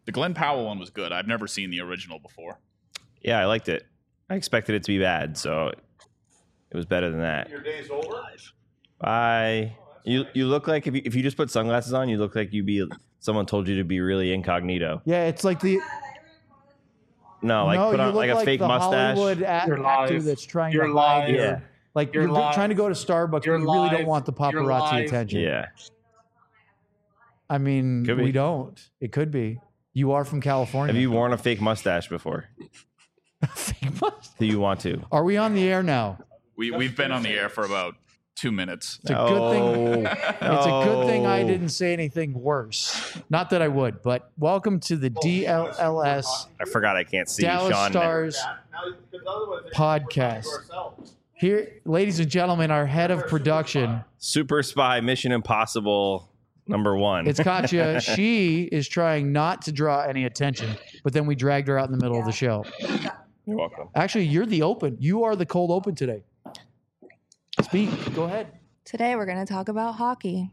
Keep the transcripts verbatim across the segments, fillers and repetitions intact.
The Glenn Powell one was good. I've never seen the original before. Yeah, I liked it. I expected it to be bad, so it was better than that. Your day's over? Bye. You you look like if you, if you just put sunglasses on, you look like you be someone told you to be really incognito. Yeah, it's like the No, like no, put you on look like a like fake the mustache. Hollywood a- You're actor live. that's trying You're to live. hide. Yeah. Like You're you're, live. trying to go to Starbucks, You're but you really live. don't want the You're paparazzi live. attention. Yeah. I mean, Could be. we don't. It could be. You are from California. Have you worn a fake mustache before? Fake mustache? Do you want to? Are we on the air now? We we've been on the air for about two minutes. It's a good thing. No. It's a good thing I No. didn't say anything worse. Not that I would, but welcome to the D L L S I forgot I can't see Dallas Sean. Stars podcast. Here, ladies and gentlemen, our head of production. Super Spy Mission Impossible number one. It's Katya. She is trying not to draw any attention, but then we dragged her out in the middle of the show. You're welcome. Actually, you're the open. You are the cold open today. Speak. Go ahead. Today we're going to talk about hockey.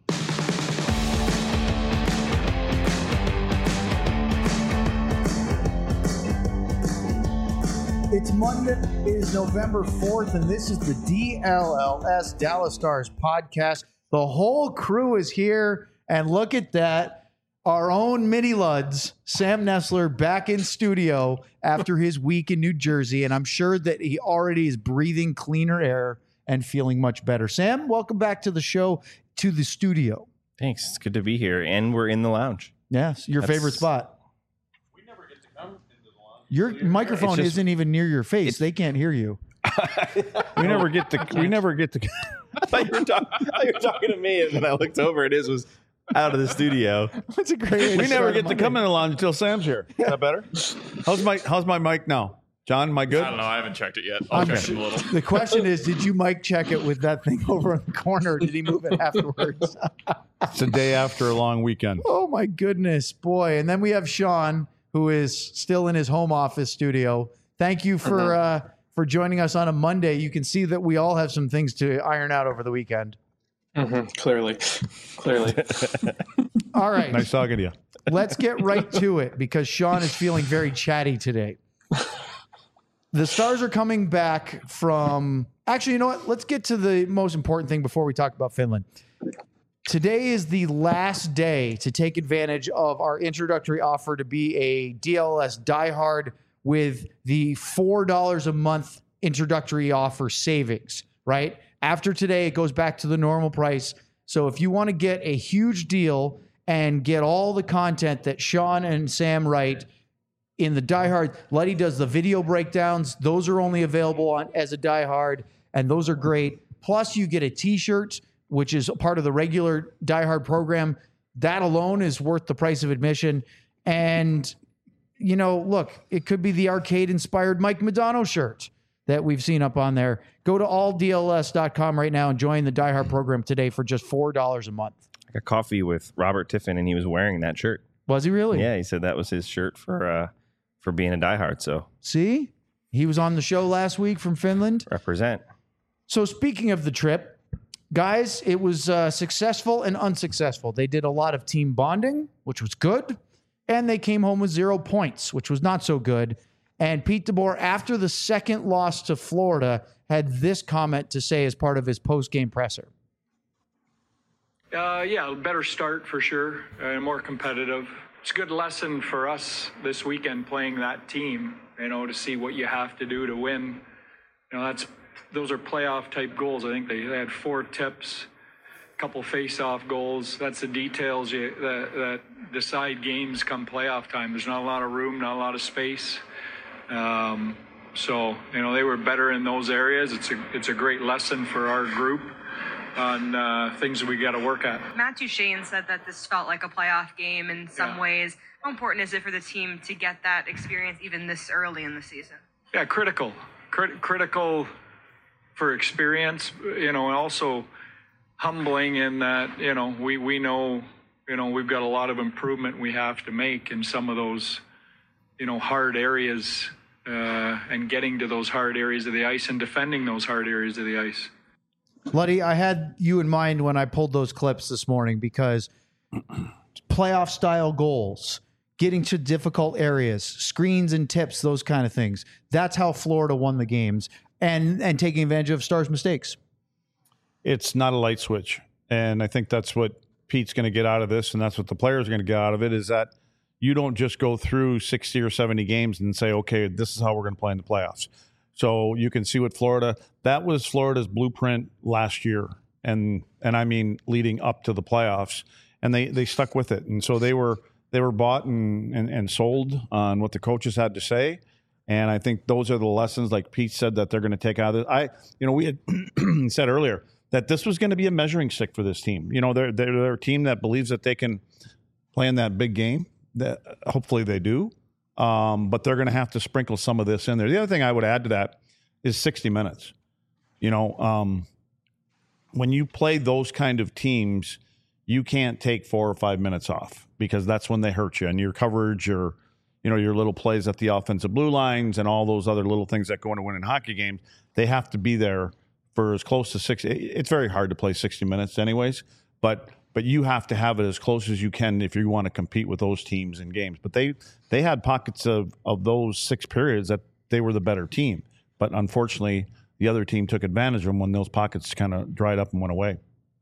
It's Monday. It is November fourth, and this is the D L L S Dallas Stars podcast. The whole crew is here, and look at that. Our own Mini Luds, Sam Nessler, back in studio after his week in New Jersey, and I'm sure that he already is breathing cleaner air and feeling much better. Sam, welcome back to the show, to the studio. Thanks. It's good to be here, and we're in the lounge. Yes, your That's- favorite spot. Your microphone just- isn't even near your face. They can't hear you. We never get to. We never get to. I thought you were, talk- I thought you were talking to me, and then I looked over, and his was out of the studio. That's a great way to We never start get to Monday. come in the lounge until Sam's here. Is that better? How's my How's my mic now, John? Am I good? I don't know. I haven't checked it yet. I'll I'm check sure- it a little. The question is, did you mic check it with that thing over in the corner? Or did he move it afterwards? It's a day after a long weekend. Oh my goodness, boy! And then we have Sean, who is still in his home office studio. Thank you for uh, for joining us on a Monday. You can see that we all have some things to iron out over the weekend. Mm-hmm. Clearly, clearly. All right, Nice talking to you. let's get right to it because Sean is feeling very chatty today. The Stars are coming back from. Actually, you know what? Let's get to the most important thing before we talk about Finland. Today is the last day to take advantage of our introductory offer to be a D L S diehard with the four dollars a month introductory offer savings, right? After today, it goes back to the normal price. So if you want to get a huge deal and get all the content that Sean and Sam write in the diehard, Letty does the video breakdowns. Those are only available on as a diehard, and those are great. Plus, you get a t-shirt, which is a part of the regular diehard program. That alone is worth the price of admission. And, you know, look, it could be the arcade-inspired Mike Madonna shirt that we've seen up on there. Go to all D L S dot com right now and join the diehard program today for just four dollars a month. I got coffee with Robert Tiffin, and he was wearing that shirt. Was he really? Yeah, he said that was his shirt for uh, for being a diehard. So See? He was on the show last week from Finland. represent. So speaking of the trip, guys, it was uh, successful and unsuccessful. They did a lot of team bonding, which was good, and they came home with zero points, which was not so good. And Pete DeBoer, after the second loss to Florida, had this comment to say as part of his post-game presser. Uh, yeah, a better start for sure, and more competitive. It's a good lesson for us this weekend playing that team, you know, to see what you have to do to win. You know, that's those are playoff type goals. I think they, they had four tips, a couple face-off goals. That's the details you, that, that decide games come playoff time. There's not a lot of room, not a lot of space. Um, so, you know, they were better in those areas. It's a, it's a great lesson for our group on uh, things that we got to work at. Matt Duchene said that this felt like a playoff game in some Yeah. ways. How important is it for the team to get that experience even this early in the season? Yeah, critical. Crit- critical for experience, you know, and also humbling in that, you know, we, we know, you know, we've got a lot of improvement we have to make in some of those, you know, hard areas uh, and getting to those hard areas of the ice and defending those hard areas of the ice. Luddy, I had you in mind when I pulled those clips this morning because playoff style goals getting to difficult areas, screens and tips, those kind of things. That's how Florida won the games, and and taking advantage of Stars' mistakes. It's not a light switch. And I think that's what Pete's going to get out of this, and that's what the players are going to get out of it, is that you don't just go through sixty or seventy games and say, okay, this is how we're going to play in the playoffs. So you can see what Florida, that was Florida's blueprint last year. And and I mean leading up to the playoffs. And they, they stuck with it. And so they were they were bought and, and, and sold on what the coaches had to say. And I think those are the lessons, like Pete said, that they're going to take out of it. I, you know, we had said earlier that this was going to be a measuring stick for this team. You know, they're, they're, they're a team that believes that they can play in that big game. That hopefully they do. Um, but they're going to have to sprinkle some of this in there. The other thing I would add to that is sixty minutes. You know, um, when you play those kind of teams, you can't take four or five minutes off, because that's when they hurt you. And your coverage, your, you know, your little plays at the offensive blue lines and all those other little things that go into winning hockey games, they have to be there for as close to sixty. It's very hard to play sixty minutes anyways, but but you have to have it as close as you can if you want to compete with those teams in games. But they they had pockets of, of those six periods that they were the better team. But unfortunately, the other team took advantage of them when those pockets kind of dried up and went away.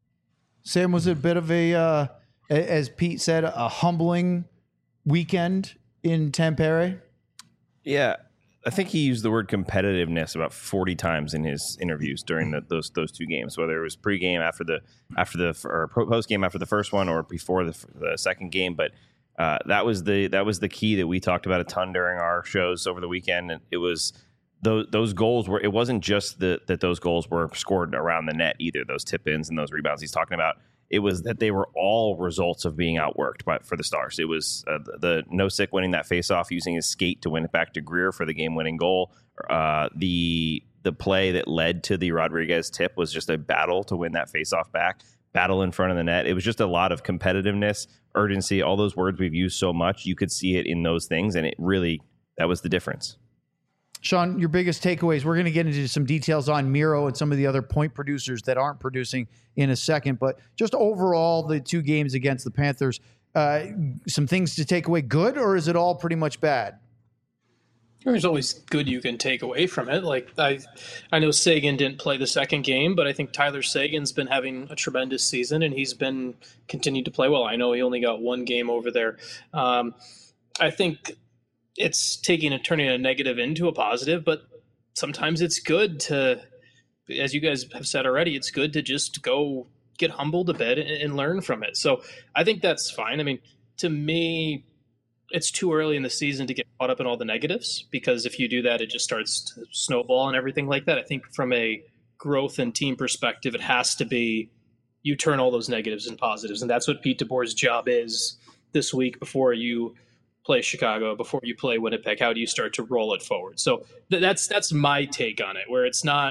Sam, was it a bit of a, uh, as Pete said, a humbling weekend in Tampere? Yeah, I think he used the word competitiveness about forty times in his interviews during the, those those two games, whether it was pregame after the after the or postgame after the first one or before the, the second game. But uh, that was the that was the key that we talked about a ton during our shows over the weekend. And it was those those goals were. It wasn't just the, that those goals were scored around the net either. Those tip ins and those rebounds he's talking about. It was that they were all results of being outworked by, for the Stars. It was uh, the, the Nosek winning that faceoff, using his skate to win it back to Greer for the game-winning goal. Uh, the the play that led to the Rodriguez tip was just a battle to win that faceoff back, battle in front of the net. It was just a lot of competitiveness, urgency, all those words we've used so much. You could see it in those things, and it really, that was the difference. Sean, your biggest takeaways. We're going to get into some details on Miro and some of the other point producers that aren't producing in a second. But just overall, the two games against the Panthers, uh, some things to take away good, or is it all pretty much bad? There's always good you can take away from it. Like I, I know Sagan didn't play the second game, but I think Tyler Sagan's been having a tremendous season, and he's been continued to play well. I know he only got one game over there. Um, I think it's taking and turning a negative into a positive, but sometimes it's good to, as you guys have said already, it's good to just go get humbled a bit and, and learn from it. So I think that's fine. I mean, to me, it's too early in the season to get caught up in all the negatives, because if you do that, it just starts to snowball and everything like that. I think from a growth and team perspective, it has to be you turn all those negatives into positives. And that's what Pete DeBoer's job is this week before you play Chicago, before you play Winnipeg. How do you start to roll it forward? So th- that's that's my take on it, where it's not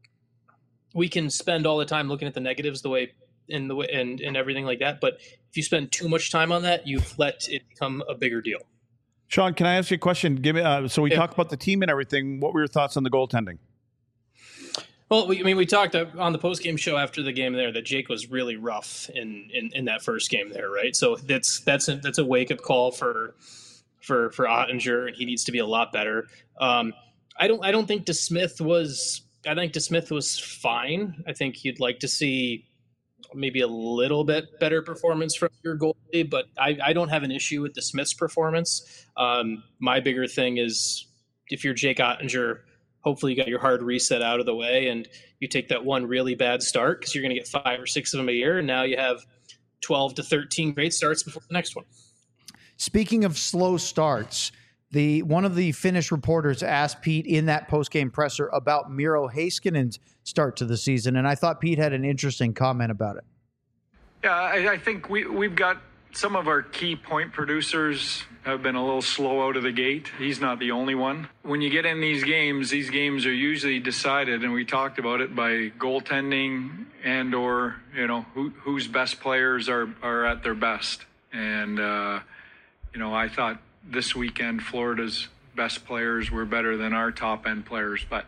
we can spend all the time looking at the negatives the way in the way and, and everything like that, but if you spend too much time on that, you've let it become a bigger deal. Sean, can I ask you a question? Give me uh, so we Yeah. talked about the team and everything. What were your thoughts on the goaltending? Well, we, I mean, we talked on the post-game show after the game there that Jake was really rough in, in, in that first game there, right? So that's that's a, that's a wake-up call for for for Ottinger, and he needs to be a lot better. Um, I don't I don't think DeSmith was I think DeSmith was fine. I think you'd like to see maybe a little bit better performance from your goalie, but I, I don't have an issue with DeSmith's performance. Um, my bigger thing is if you're Jake Ottinger, hopefully you got your hard reset out of the way and you take that one really bad start, because you're going to get five or six of them a year. And now you have twelve to thirteen great starts before the next one. Speaking of slow starts, the one of the Finnish reporters asked Pete in that post-game presser about Miro Heiskanen's start to the season, and I thought Pete had an interesting comment about it. Yeah, I, I think we, we've got some of our key point producers have been a little slow out of the gate. He's not the only one. When you get in these games, these games are usually decided, and we talked about it, by goaltending and or, you know, who, whose best players are, are at their best. And, uh, you know, I thought this weekend Florida's best players were better than our top-end players. But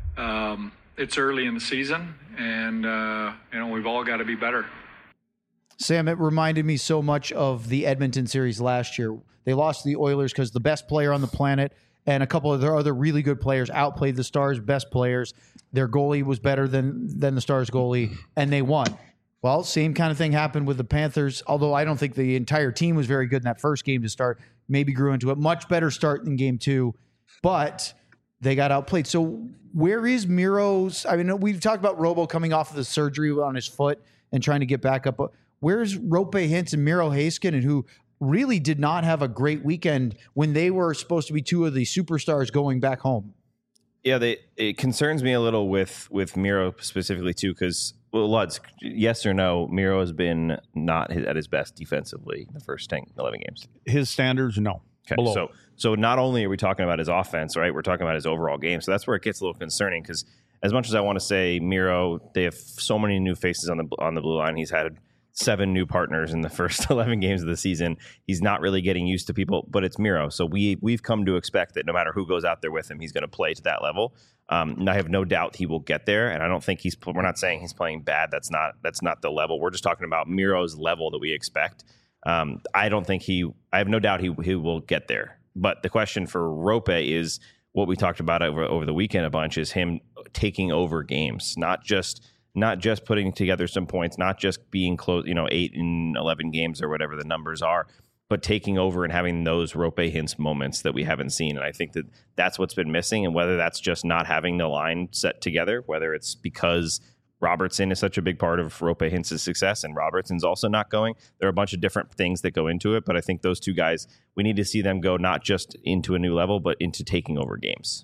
um, it's early in the season, and, uh, you know, we've all got to be better. Sam, it reminded me so much of the Edmonton series last year. They lost to the Oilers because the best player on the planet and a couple of their other really good players outplayed the Stars' best players. Their goalie was better than than the Stars' goalie, and they won. Well, same kind of thing happened with the Panthers, although I don't think the entire team was very good in that first game to start. Maybe grew into a much better start in game two, but they got outplayed. So where is Miro's? I mean, we've talked about Robo coming off of the surgery on his foot and trying to get back up. Where's Roope Hintz and Miro Heiskanen, who really did not have a great weekend when they were supposed to be two of the superstars going back home? Yeah, they, it concerns me a little with with Miro specifically too, because well, Luds, yes or no, Miro has been not his, at his best defensively in the first ten, eleven games. His standards, no. Okay, Below. so so not only are we talking about his offense, right? We're talking about his overall game. So that's where it gets a little concerning, because as much as I want to say Miro, they have so many new faces on the on the blue line. He's had seven new partners in the first eleven games of the season. He's not really getting used to people, but it's Miro. So we, we've come to expect that no matter who goes out there with him, he's going to play to that level. Um, and I have no doubt he will get there. And I don't think he's, we're not saying he's playing bad. That's not, that's not the level. We're just talking about Miro's level that we expect. Um, I don't think he, I have no doubt he, he will get there. But the question for Roope is what we talked about over, over the weekend a bunch, is him taking over games, not just, not just putting together some points, not just being close, you know, eight and eleven games or whatever the numbers are, but taking over and having those Roope Hintz moments that we haven't seen. And I think that that's what's been missing. And whether that's just not having the line set together, whether it's because Robertson is such a big part of Roope Hintz's success and Robertson's also not going, there are a bunch of different things that go into it. But I think those two guys, we need to see them go not just into a new level, but into taking over games.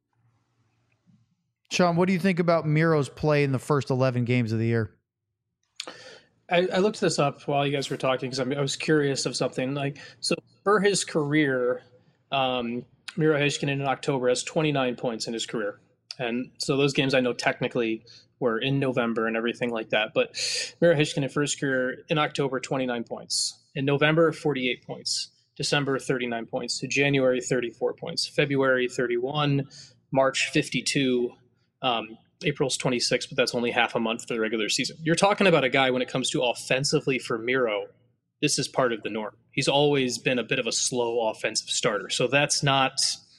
Sean, what do you think about Miro's play in the first eleven games of the year? I, I looked this up while you guys were talking because I was curious of something. Like, so for his career, um, Miro Heiskanen in October has twenty-nine points in his career. And so those games I know technically were in November and everything like that. But Miro Heiskanen for his career in October, twenty-nine points. In November, forty-eight points. December, thirty-nine points. January, thirty-four points. February, thirty-one. March, fifty-two. Um, April's twenty-six, but that's only half a month for the regular season. You're talking about a guy when it comes to offensively for Miro, this is part of the norm. He's always been a bit of a slow offensive starter. So that's not,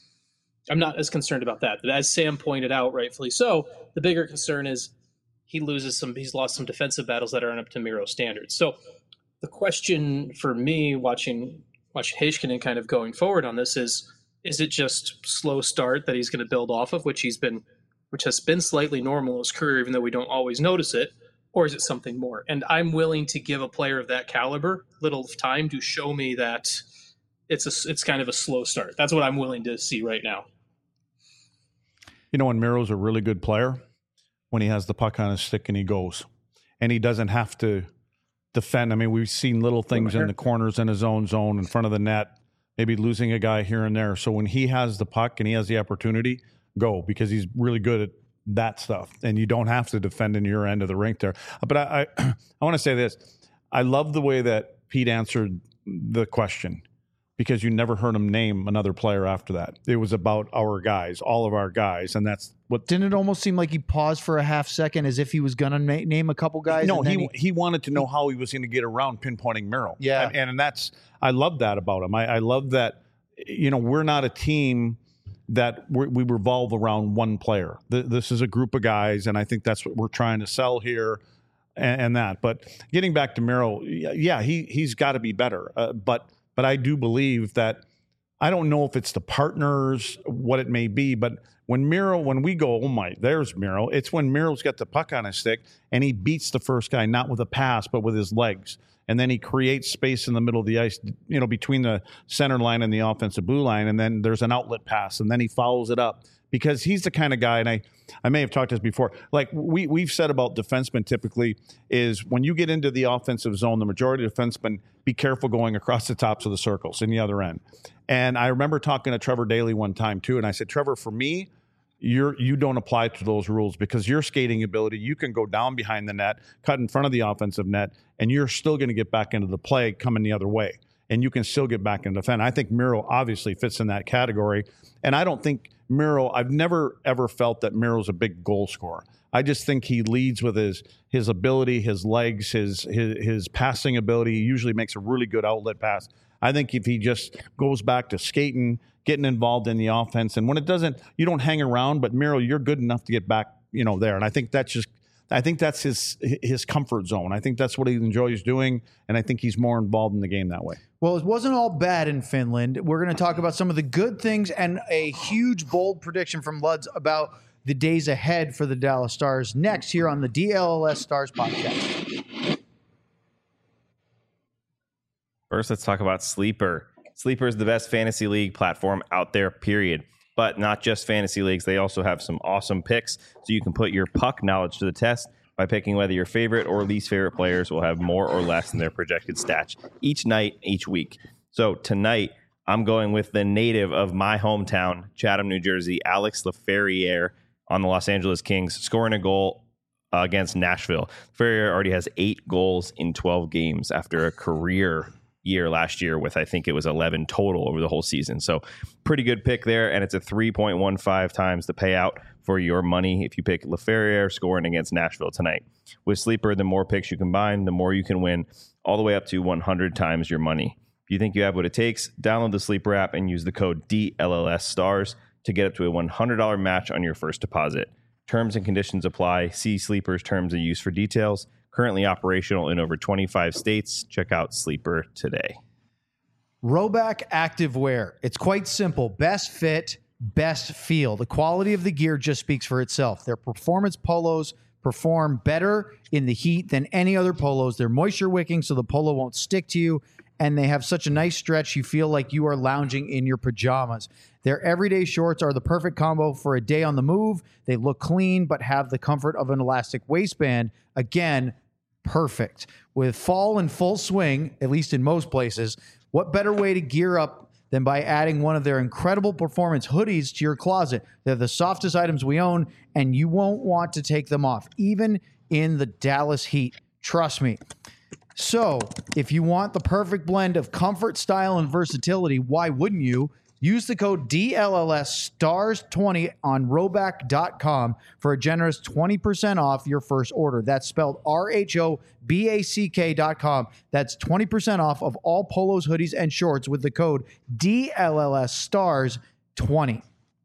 I'm not as concerned about that. But as Sam pointed out, rightfully so, the bigger concern is he loses some, he's lost some defensive battles that aren't up to Miro standards. So the question for me watching, watch Heiskanen kind of going forward on this is, is it just slow start that he's going to build off of, which he's been which has been slightly normal in his career, even though we don't always notice it, or is it something more? And I'm willing to give a player of that caliber little time to show me that it's a, it's kind of a slow start. That's what I'm willing to see right now. You know, when Miro's a really good player, when he has the puck on his stick and he goes, and he doesn't have to defend. I mean, we've seen little things in the corners in his own zone, in front of the net, maybe losing a guy here and there. So when he has the puck and he has the opportunity, go, because he's really good at that stuff, and you don't have to defend in your end of the rink there. But I, I, I want to say this: I love the way that Pete answered the question, because you never heard him name another player after that. It was about our guys, all of our guys, and that's what. Didn't it almost seem like he paused for a half second as if he was going to na- name a couple guys? No, and he, he he wanted to know how he was going to get around pinpointing Miro. Yeah, and, and that's I love that about him. I, I love that. You know, we're not a team that we're, we revolve around one player. This is a group of guys, and I think that's what we're trying to sell here, and, and that. But getting back to Miro, yeah, he he's got to be better. Uh, but but I do believe that I don't know if it's the partners, what it may be, but when Miro, when we go, oh my, there's Miro. It's when Miro's got the puck on his stick and he beats the first guy not with a pass but with his legs. And then he creates space in the middle of the ice, you know, between the center line and the offensive blue line. And then there's an outlet pass, and then he follows it up, because he's the kind of guy, and I, I may have talked to this before, like we, we've said about defensemen typically is when you get into the offensive zone, the majority of defensemen, be careful going across the tops of the circles in the other end. And I remember talking to Trevor Daley one time too, and I said, Trevor, for me, You're, you don't apply to those rules, because your skating ability, you can go down behind the net, cut in front of the offensive net, and you're still going to get back into the play coming the other way. And you can still get back into defend. I think Miro obviously fits in that category. And I don't think Miro, I've never, ever felt that Miro's a big goal scorer. I just think he leads with his his ability, his legs, his his his passing ability. He usually makes a really good outlet pass. I think if he just goes back to skating, getting involved in the offense, and when it doesn't, you don't hang around. But Miro, you're good enough to get back, you know, there. And I think that's just, I think that's his his comfort zone. I think that's what he enjoys doing, and I think he's more involved in the game that way. Well, it wasn't all bad in Finland. We're going to talk about some of the good things and a huge, bold prediction from Luds about the days ahead for the Dallas Stars next here on the D L L S Stars podcast. First, let's talk about Sleeper. Sleeper is the best fantasy league platform out there, period. But not just fantasy leagues. They also have some awesome picks, so you can put your puck knowledge to the test by picking whether your favorite or least favorite players will have more or less than their projected stats each night, each week. So tonight, I'm going with the native of my hometown, Chatham, New Jersey, Alex Laferriere on the Los Angeles Kings, scoring a goal uh, against Nashville. Laferriere already has eight goals in twelve games after a career year last year with, I think it was eleven total over the whole season. So pretty good pick there. And it's a three point one five times the payout for your money if you pick Laferriere scoring against Nashville tonight. With Sleeper, the more picks you combine, the more you can win, all the way up to one hundred times your money. If you think you have what it takes, download the Sleeper app and use the code D L L S stars to get up to a one hundred dollars match on your first deposit. Terms and conditions apply. See Sleeper's terms of use for details. Currently operational in over twenty-five states. Check out Sleeper today. Rhoback Activewear. It's quite simple. Best fit, best feel. The quality of the gear just speaks for itself. Their performance polos perform better in the heat than any other polos. They're moisture wicking, so the polo won't stick to you. And they have such a nice stretch, you feel like you are lounging in your pajamas. Their everyday shorts are the perfect combo for a day on the move. They look clean, but have the comfort of an elastic waistband. Again, perfect. With fall in full swing, at least in most places, what better way to gear up than by adding one of their incredible performance hoodies to your closet? They're the softest items we own, and you won't want to take them off, even in the Dallas heat. Trust me. So, if you want the perfect blend of comfort, style, and versatility, why wouldn't you? Use the code D L L S stars twenty on rhoback dot com for a generous twenty percent off your first order. That's spelled R H O B A C K dot com. That's twenty percent off of all polos, hoodies, and shorts with the code D L L S stars twenty.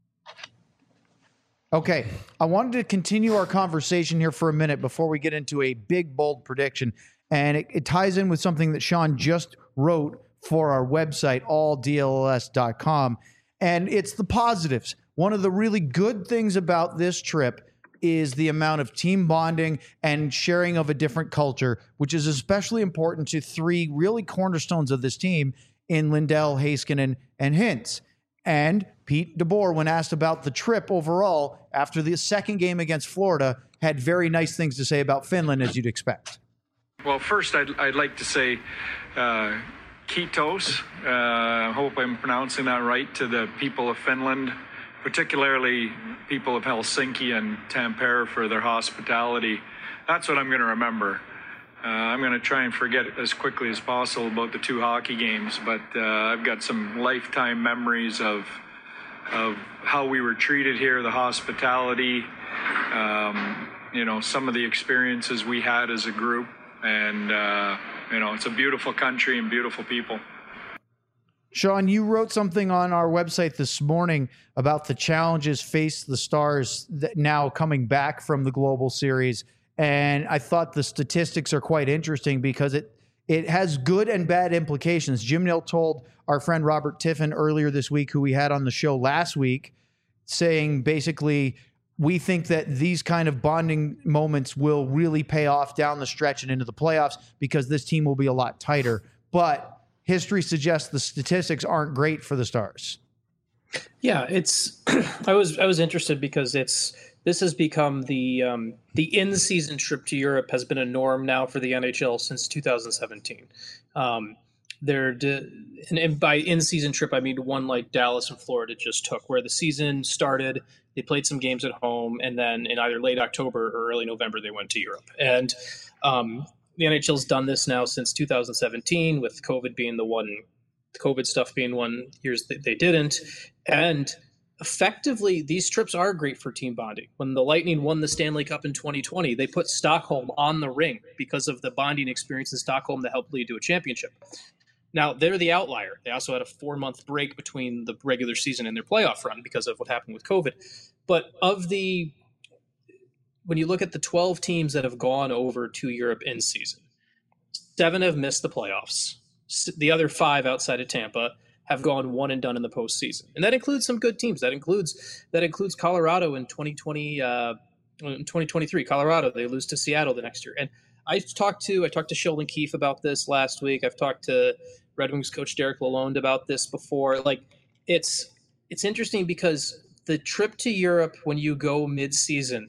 Okay, I wanted to continue our conversation here for a minute before we get into a big, bold prediction. And it, it ties in with something that Sean just wrote for our website, all D L L S dot com. And it's the positives. One of the really good things about this trip is the amount of team bonding and sharing of a different culture, which is especially important to three really cornerstones of this team in Lindell, Heiskanen, and Hintz. And Pete DeBoer, when asked about the trip overall after the second game against Florida, had very nice things to say about Finland, as you'd expect. Well, first, I'd, I'd like to say uh, Kiitos. I uh, hope I'm pronouncing that right, to the people of Finland, particularly people of Helsinki and Tampere for their hospitality. That's what I'm going to remember. Uh, I'm going to try and forget as quickly as possible about the two hockey games, but uh, I've got some lifetime memories of of how we were treated here, the hospitality, um, you know, some of the experiences we had as a group. And, uh, you know, it's a beautiful country and beautiful people. Sean, you wrote something on our website this morning about the challenges faced the Stars that now coming back from the Global Series. And I thought the statistics are quite interesting because it it has good and bad implications. Jim Nill told our friend Robert Tiffin earlier this week, who we had on the show last week, saying basically, we think that these kind of bonding moments will really pay off down the stretch and into the playoffs because this team will be a lot tighter. But history suggests the statistics aren't great for the Stars. Yeah, it's. I was I was interested because it's this has become the um, the in-season trip to Europe has been a norm now for the N H L since two thousand seventeen. Um, They're de- and, and by in-season trip, I mean one like Dallas and Florida just took, where the season started, they played some games at home, and then in either late October or early November, they went to Europe. And um, the N H L's done this now since two thousand seventeen, with COVID being the one, COVID stuff being one years that they didn't. And effectively, these trips are great for team bonding. When the Lightning won the Stanley Cup in twenty twenty, they put Stockholm on the ring because of the bonding experience in Stockholm that helped lead to a championship. Now, they're the outlier. They also had a four-month break between the regular season and their playoff run because of what happened with COVID. But of the, when you look at the twelve teams that have gone over to Europe in season, seven have missed the playoffs. The other five outside of Tampa have gone one and done in the postseason, and that includes some good teams. That includes that includes Colorado in twenty twenty, uh, in twenty twenty-three. Colorado, they lose to Seattle the next year. And I talked to I talked to Sheldon Keefe about this last week. I've talked to Red Wings coach Derek Lalonde about this before. Like, it's it's interesting because the trip to Europe when you go mid-season,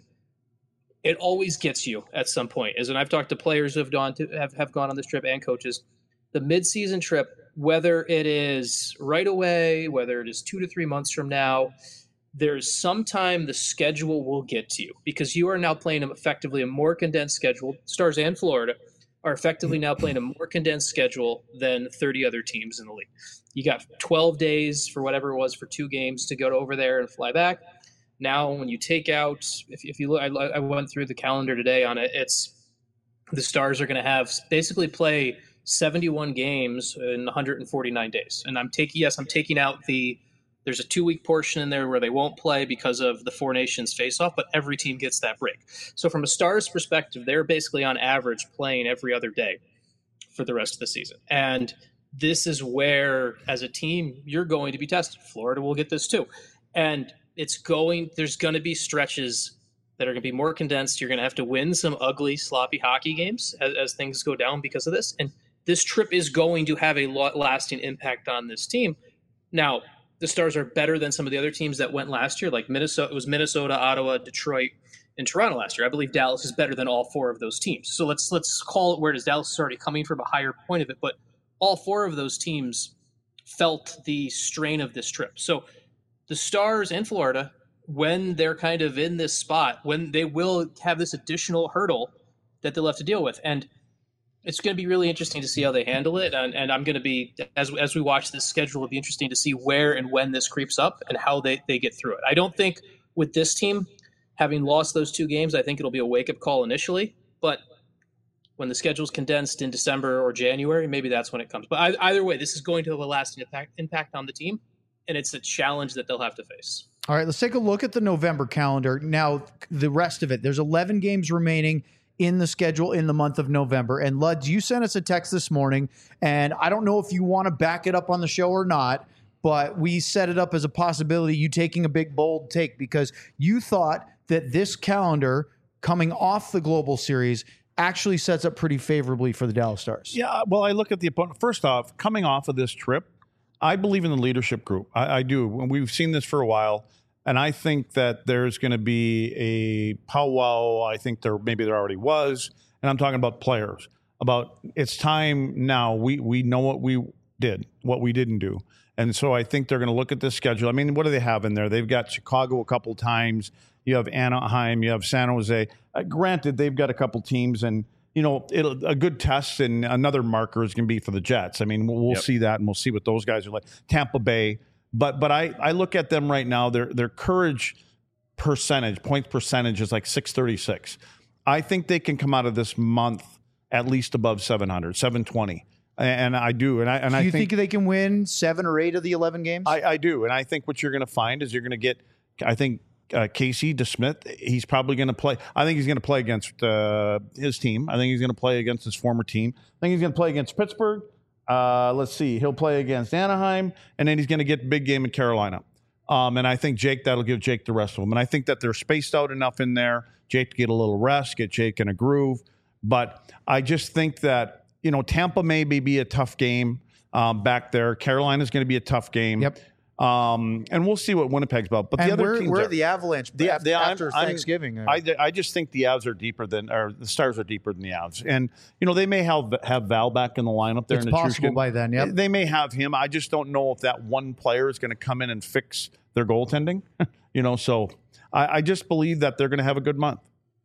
it always gets you at some point. As and I've talked to players who have gone to have, have gone on this trip and coaches. The mid-season trip, whether it is right away, whether it is two to three months from now, there's sometime the schedule will get to you because you are now playing effectively a more condensed schedule. Stars and Florida are effectively now playing a more condensed schedule than thirty other teams in the league. You got twelve days for whatever it was for two games to go over there and fly back. Now, when you take out, if, if you look, I, I went through the calendar today on it. It's the Stars are going to have basically play seventy-one games in one hundred forty-nine days. And I'm taking, yes, I'm taking out the, there's a two week portion in there where they won't play because of the Four Nations face off, but every team gets that break. So from a Stars perspective, they're basically on average playing every other day for the rest of the season. And this is where, as a team, you're going to be tested. Florida will get this too. And it's going, there's going to be stretches that are going to be more condensed. You're going to have to win some ugly, sloppy hockey games as, as things go down because of this. And this trip is going to have a lot lasting impact on this team. Now, the Stars are better than some of the other teams that went last year, like Minnesota. It was Minnesota, Ottawa, Detroit, and Toronto last year. I believe Dallas is better than all four of those teams. So let's let's call it where it is. Dallas is already coming from a higher point of it, but all four of those teams felt the strain of this trip. So the Stars and Florida, when they're kind of in this spot, when they will have this additional hurdle that they'll have to deal with. And it's going to be really interesting to see how they handle it. And, and I'm going to be, as as we watch this schedule, it'll be interesting to see where and when this creeps up and how they, they get through it. I don't think with this team, having lost those two games, I think it'll be a wake-up call initially. But when the schedule's condensed in December or January, maybe that's when it comes. But I, either way, this is going to have a lasting impact, impact on the team, and it's a challenge that they'll have to face. All right, let's take a look at the November calendar. Now, the rest of it, there's eleven games remaining in the schedule in the month of November. And Luds, you sent us a text this morning, and I don't know if you want to back it up on the show or not, but we set it up as a possibility, you taking a big, bold take, because you thought that this calendar coming off the Global Series actually sets up pretty favorably for the Dallas Stars. Yeah, well, I look at the opponent. First off, coming off of this trip, I believe in the leadership group. I, I do. We've seen this for a while. And I think that there's going to be a powwow. I think there maybe there already was. And I'm talking about players. About it's time now. We we know what we did, what we didn't do. And so I think they're going to look at this schedule. I mean, what do they have in there? They've got Chicago a couple times. You have Anaheim. You have San Jose. Uh, granted, they've got a couple teams. And, you know, it'll, a good test and another marker is going to be for the Jets. I mean, we'll, we'll Yep. see that, and we'll see what those guys are like. Tampa Bay. But but I, I look at them right now, their their courage percentage, point percentage is like six thirty-six. I think they can come out of this month at least above seven hundred, seven twenty. And I do. And I and Do I you think, think they can win seven or eight of the eleven games? I, I do. And I think what you're going to find is you're going to get, I think, uh, Casey DeSmith, he's probably going to play. I think he's going to play against uh, his team. I think he's going to play against his former team. I think he's going to play against Pittsburgh. Uh, let's see. He'll play against Anaheim, and then he's going to get big game in Carolina. Um, and I think Jake, that'll give Jake the rest of them. And I think that they're spaced out enough in there. Jake to get a little rest, get Jake in a groove. But I just think that, you know, Tampa may be a tough game um, back there. Carolina's going to be a tough game. Yep. Um, and we'll see what Winnipeg's about. But and the other where, teams where are are the Avalanche The- after, the- I'm- after I'm- Thanksgiving? I, I just think the Avs are deeper than, or the Stars are deeper than the Avs. And, you know, they may have, have Val back in the lineup there. It's in possible Nichushkin. by then, yep. They may have him. I just don't know if that one player is going to come in and fix their goaltending. you know, so I, I just believe that they're going to have a good month.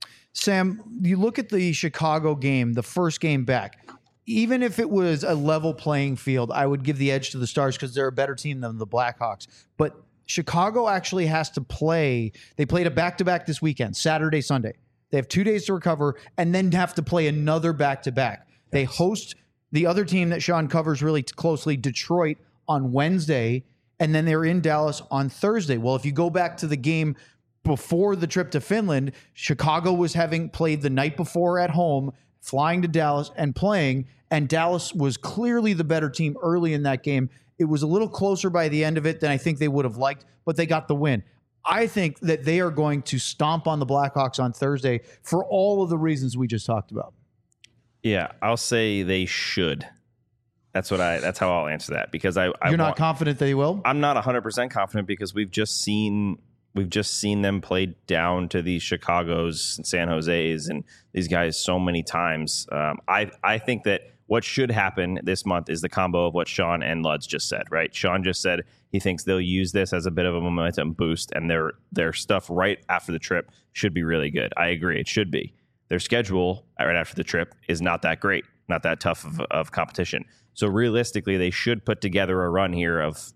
Sam, you look at the Chicago game, the first game back. Even if it was a level playing field, I would give the edge to the Stars because they're a better team than the Blackhawks. But Chicago actually has to play. They played a back-to-back this weekend, Saturday, Sunday. They have two days to recover and then have to play another back-to-back. They host the other team that Sean covers really closely, Detroit, on Wednesday, and then they're in Dallas on Thursday. Well, if you go back to the game before the trip to Finland, Chicago was having played the night before at home, flying to Dallas and playing, and Dallas was clearly the better team early in that game. It was a little closer by the end of it than I think they would have liked, but they got the win. I think that they are going to stomp on the Blackhawks on Thursday for all of the reasons we just talked about. Yeah, I'll say they should. That's what I. That's how I'll answer that because I. I You're not want, confident they will? I'm not one hundred percent confident because we've just seen we've just seen them play down to these Chicago's and San Jose's and these guys so many times. Um, I I think that what should happen this month is the combo of what Sean and Luds just said. Right? Sean just said he thinks they'll use this as a bit of a momentum boost, and their their stuff right after the trip should be really good. I agree, it should be. Their schedule right after the trip is not that great, not that tough of, of competition. So realistically, they should put together a run here of,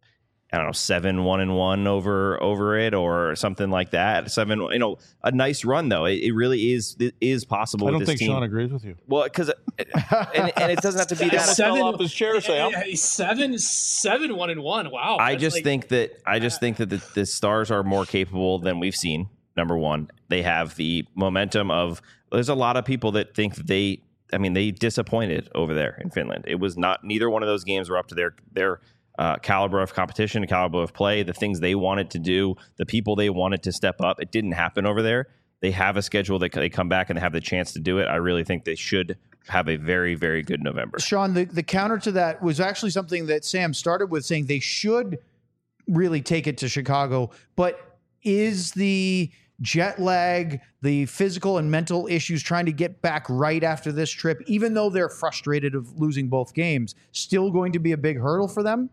I don't know, seven one and one over over it or something like that. Seven, you know, a nice run though. It, it really is it is possible. I don't with this think team. Sean agrees with you. Well, because and, and it doesn't have to be that. Seven, fell off his chair, Sam. yeah, seven, seven, one and one. Wow. I That's just like- think that I just think that the, the Stars are more capable than we've seen. Number one, they have the momentum of. There's a lot of people that think that they. I mean, they disappointed over there in Finland. It was not. Neither one of those games were up to their their uh, caliber of competition, caliber of play, the things they wanted to do, the people they wanted to step up. It didn't happen over there. They have a schedule that they come back and they have the chance to do it. I really think they should have a very, very good November. Sean, the, the counter to that was actually something that Sam started with, saying they should really take it to Chicago. But is the jet lag, the physical and mental issues trying to get back right after this trip, even though they're frustrated of losing both games, still going to be a big hurdle for them?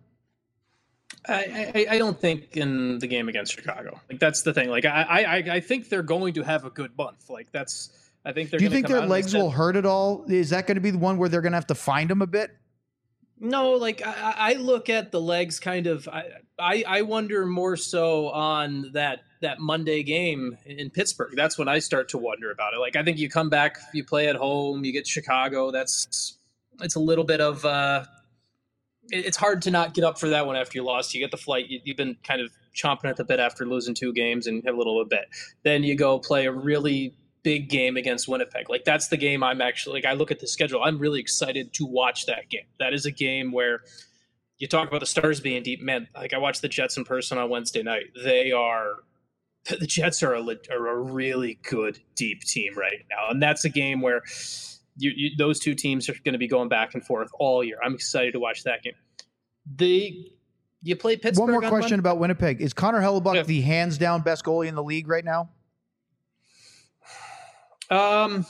I, I, I don't think in the game against Chicago. Like that's the thing. Like I, I, I think they're going to have a good month. Like that's. I think they're. Do you gonna think come their out legs and will hurt at all? Is that going to be the one where they're going to have to find them a bit? No, like I, I look at the legs kind of. I, I I wonder more so on that that Monday game in Pittsburgh. That's when I start to wonder about it. Like I think you come back, you play at home, you get Chicago. That's it's a little bit of. Uh, it, it's hard to not get up for that one after you lost. You get the flight. You, you've been kind of chomping at the bit after losing two games and have a little bit. Then you go play a really big game against Winnipeg. Like that's the game I'm actually like I look at the schedule. I'm really excited to watch that game. That is a game where you talk about the Stars being deep. Man, like I watched the Jets in person on Wednesday night. They are the Jets are a, are a really good deep team right now. And that's a game where you, you those two teams are going to be going back and forth all year. I'm excited to watch that game. The you play Pittsburgh. One more on question Monday? about Winnipeg. Is Connor Hellebuck Yeah. the hands down best goalie in the league right now? Um,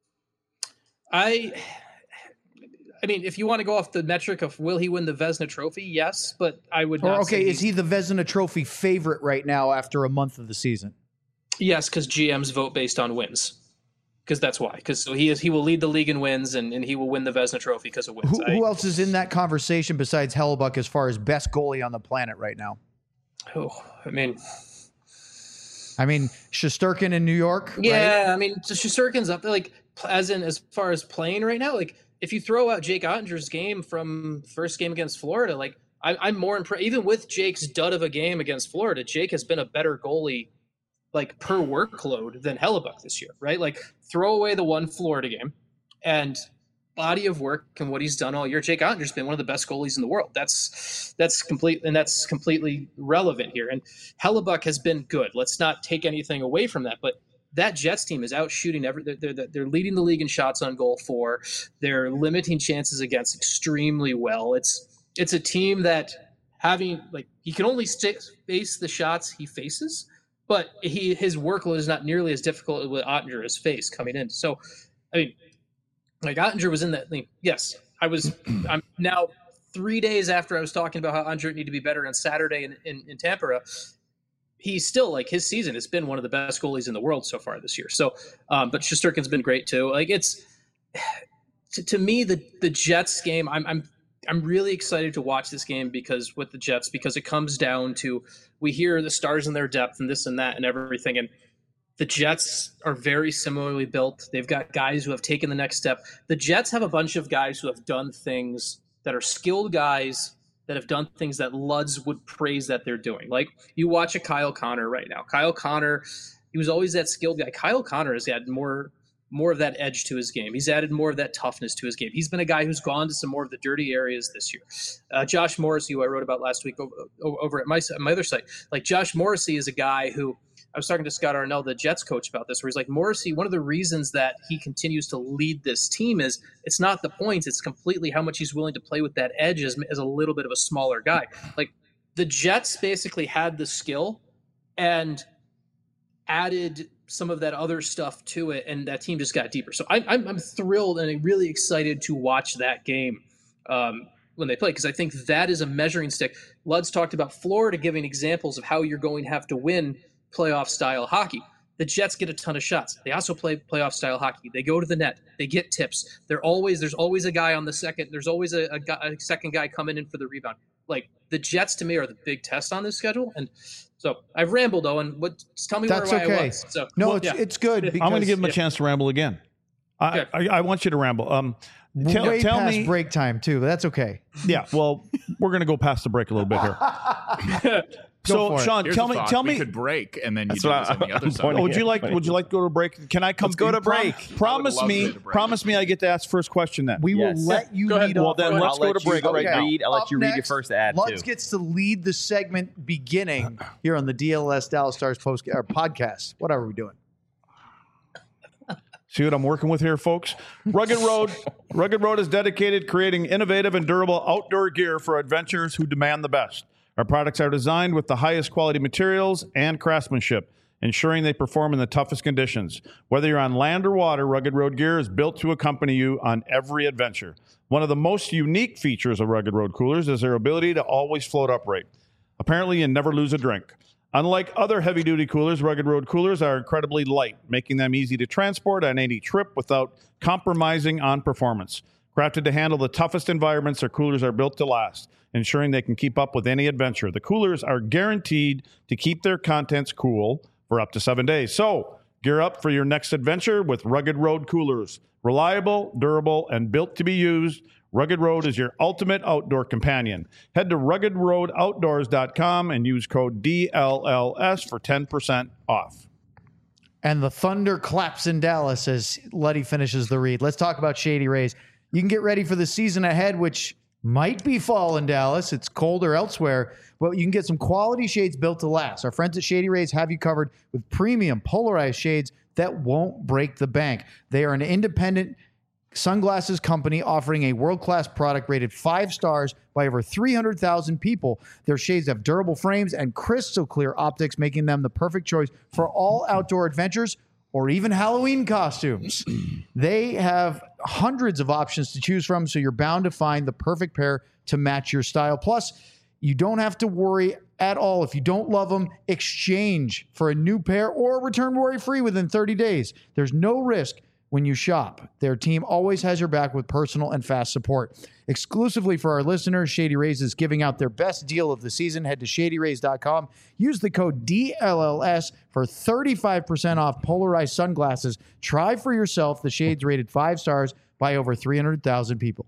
I, I mean, if you want to go off the metric of will he win the Vezina Trophy, yes, but I would Or not. okay, say is he the Vezina Trophy favorite right now after a month of the season? Yes, because G Ms vote based on wins. Because that's why. Because so he is he will lead the league in wins, and, and he will win the Vezina Trophy because of wins. Who, I, who else is in that conversation besides Hellebuck as far as best goalie on the planet right now? oh, I mean, I mean, Shesterkin in New York. yeah, right? I mean, so Shesterkin's up there, like as in as far as playing right now. Like if you throw out Jake Ottinger's game from first game against Florida, like I, I'm more impressed. Even with Jake's dud of a game against Florida, Jake has been a better goalie, like per workload, than Hellebuck this year, right? Like throw away the one Florida game and body of work and what he's done all year. Jake Ottinger's been one of the best goalies in the world. That's that's complete and that's completely relevant here. And Hellebuck has been good. Let's not take anything away from that, but that Jets team is out shooting every. They're, they're, they're leading the league in shots on goal for. They're limiting chances against extremely well. It's it's a team that having like he can only stay, face the shots he faces, but he his workload is not nearly as difficult with Ottinger as face coming in. So, I mean, like Ottinger was in that. I mean, yes, I was. I'm now three days after I was talking about how Ottinger needed to be better on Saturday in in, in Tampere. He's still like his season has been one of the best goalies in the world so far this year. So, um, but Shesterkin's been great too. Like it's to, to me the the Jets game. I'm I'm I'm really excited to watch this game because with the Jets, because it comes down to, we hear the stars in their depth and this and that and everything. And the Jets are very similarly built. They've got guys who have taken the next step. The Jets have a bunch of guys who have done things that are skilled guys that have done things that Luds would praise that they're doing. Like you watch a Kyle Connor right now. Kyle Connor, he was always that skilled guy. Kyle Connor has had more more of that edge to his game. He's added more of that toughness to his game. He's been a guy who's gone to some more of the dirty areas this year. Uh, Josh Morrissey, who I wrote about last week over, over at my, my other site, like Josh Morrissey is a guy who, I was talking to Scott Arnell, the Jets coach, about this, where he's like, Morrissey, one of the reasons that he continues to lead this team is it's not the points, it's completely how much he's willing to play with that edge as, as a little bit of a smaller guy. Like the Jets basically had the skill and added some of that other stuff to it, and that team just got deeper. So I'm, I'm, I'm thrilled and really excited to watch that game um, when they play, because I think that is a measuring stick. Luds talked about Florida giving examples of how you're going to have to win playoff-style hockey. The Jets get a ton of shots. They also play playoff-style hockey. They go to the net. They get tips. They're always There's always a guy on the second. There's always a, a, guy, a second guy coming in for the rebound. Like, the Jets, to me, are the big test on this schedule, and so I've rambled, Owen. What? Just tell me That's where okay. I was. So, No, well, it's yeah. it's good. Because, I'm going to give him a yeah. chance to ramble again. I, I, I want you to ramble. Um, tell, way tell past me. break time too. But that's okay. Yeah, well, we're going to go past the break a little bit here. Go so, for it. Sean, Here's tell a me, thought. tell we me. could break, and then you That's do what this on the I- other I'm side. pointing Would you like? Would you like to go to break? Can I come? Let's go to prom- break. promise love to me. go to break. Promise me. I get to ask first question then. We Yes. will let you Go ahead. lead Well, off. then Go let's ahead. go to break you right now. read. I'll let Up you read your next, first ad Lutz too. gets to lead the segment beginning here on the D L S Dallas Stars post or podcast. Whatever we're doing. See what I'm working with here, folks? Rugged Road. Rugged Road is dedicated creating innovative and durable outdoor gear for adventurers who demand the best. Our products are designed with the highest quality materials and craftsmanship, ensuring they perform in the toughest conditions. Whether you're on land or water, Rugged Road gear is built to accompany you on every adventure. One of the most unique features of Rugged Road coolers is their ability to always float upright. Apparently, you never lose a drink. Unlike other heavy-duty coolers, Rugged Road coolers are incredibly light, making them easy to transport on any trip without compromising on performance. Crafted to handle the toughest environments, their coolers are built to last, ensuring they can keep up with any adventure. The coolers are guaranteed to keep their contents cool for up to seven days. So, gear up for your next adventure with Rugged Road coolers. Reliable, durable, and built to be used, Rugged Road is your ultimate outdoor companion. Head to rugged road outdoors dot com and use code D L L S for ten percent off. And the thunder claps in Dallas as Luddy finishes the read. Let's talk about Shady Rays. You can get ready for the season ahead, which might be fall in Dallas. It's colder elsewhere, but you can get some quality shades built to last. Our friends at Shady Rays have you covered with premium polarized shades that won't break the bank. They are an independent sunglasses company offering a world-class product rated five stars by over three hundred thousand people. Their shades have durable frames and crystal clear optics, making them the perfect choice for all outdoor adventures or even Halloween costumes. They have hundreds of options to choose from, so you're bound to find the perfect pair to match your style. Plus, you don't have to worry at all. If you don't love them, exchange for a new pair or return worry-free within thirty days. There's no risk when you shop. Their team always has your back with personal and fast support. Exclusively for our listeners, Shady Rays is giving out their best deal of the season. Head to shady rays dot com. Use the code D L L S for thirty-five percent off polarized sunglasses. Try for yourself the shades rated five stars by over three hundred thousand people.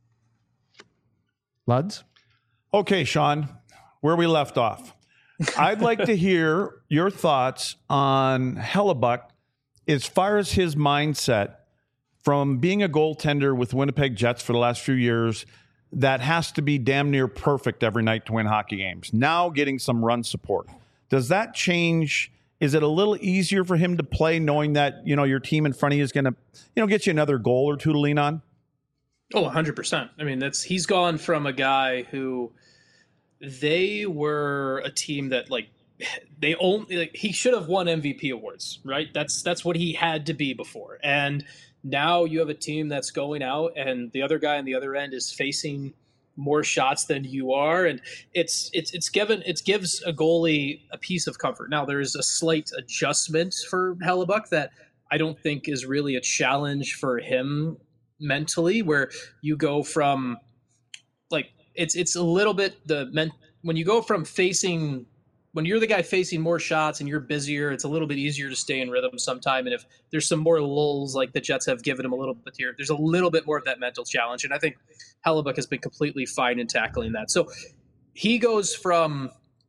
Luds? Okay, Sean, where we left off. I'd like to hear your thoughts on Hellebuck as far as his mindset from being a goaltender with Winnipeg Jets for the last few years that has to be damn near perfect every night to win hockey games. Now getting some run support. Does that change? Is it a little easier for him to play knowing that, you know, your team in front of you is going to, you know, get you another goal or two to lean on? Oh, one hundred percent. I mean, that's he's gone from a guy who they were a team that like they only like, he should have won M V P awards, right? That's that's what he had to be before. And now you have a team that's going out and the other guy on the other end is facing more shots than you are, and it's it's it's given it gives a goalie a piece of comfort. Now there's a slight adjustment for Hellebuck that I don't think is really a challenge for him mentally, where you go from it's it's a little bit the men, when you go from facing when you're the guy facing more shots and you're busier, it's a little bit easier to stay in rhythm sometime. And if there's some more lulls like the Jets have given him a little bit here, there's a little bit more of that mental challenge. And I think Hellebuyck has been completely fine in tackling that. So he goes from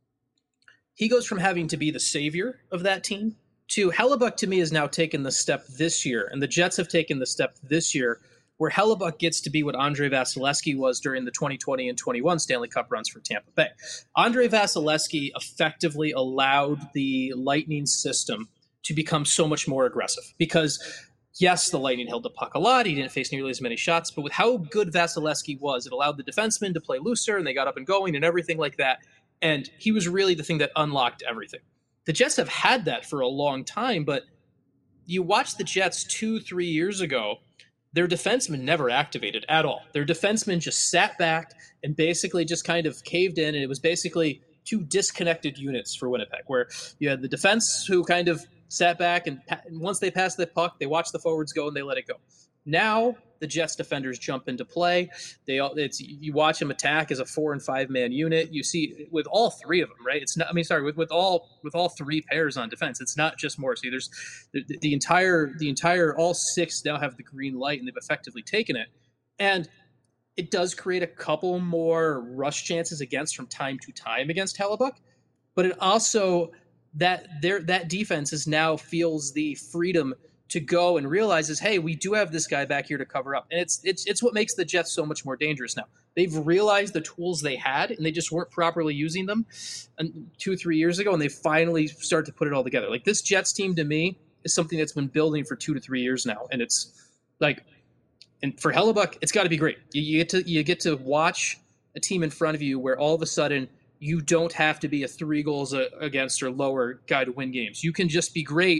he goes from having to be the savior of that team to Hellebuyck, to me, has now taken the step this year. And the Jets have taken the step this year where Hellebuyck gets to be what Andre Vasilevsky was during the twenty twenty and twenty-one Stanley Cup runs for Tampa Bay. Andre Vasilevsky effectively allowed the Lightning system to become so much more aggressive because, yes, the Lightning held the puck a lot. He didn't face nearly as many shots, but with how good Vasilevsky was, it allowed the defensemen to play looser, and they got up and going and everything like that. And he was really the thing that unlocked everything. The Jets have had that for a long time, but you watch the Jets two, three years ago, their defensemen never activated at all. Their defensemen just sat back and basically just kind of caved in, and it was basically two disconnected units for Winnipeg, where you had the defense who kind of sat back, and once they passed the puck, they watched the forwards go and they let it go. Now the Jets defenders jump into play. They all it's you watch them attack as a four and five man unit. You see with all three of them, right? It's not. I mean, sorry, with, with all with all three pairs on defense, it's not just Morrissey. There's the, the entire the entire all six now have the green light, and they've effectively taken it. And it does create a couple more rush chances against from time to time against Hellebuyck, but it also that their that defense is now feels the freedom to go and realizes, hey, we do have this guy back here to cover up. And it's it's it's what makes the Jets so much more dangerous now. They've realized the tools they had, and they just weren't properly using them two or three years ago, and they finally start to put it all together. Like, this Jets team, to me, is something that's been building for two to three years now. And it's like, and for Hellebuyck, it's got to be great. You, you get to you get to watch a team in front of you where all of a sudden you don't have to be a three goals a, against or lower guy to win games. You can just be great.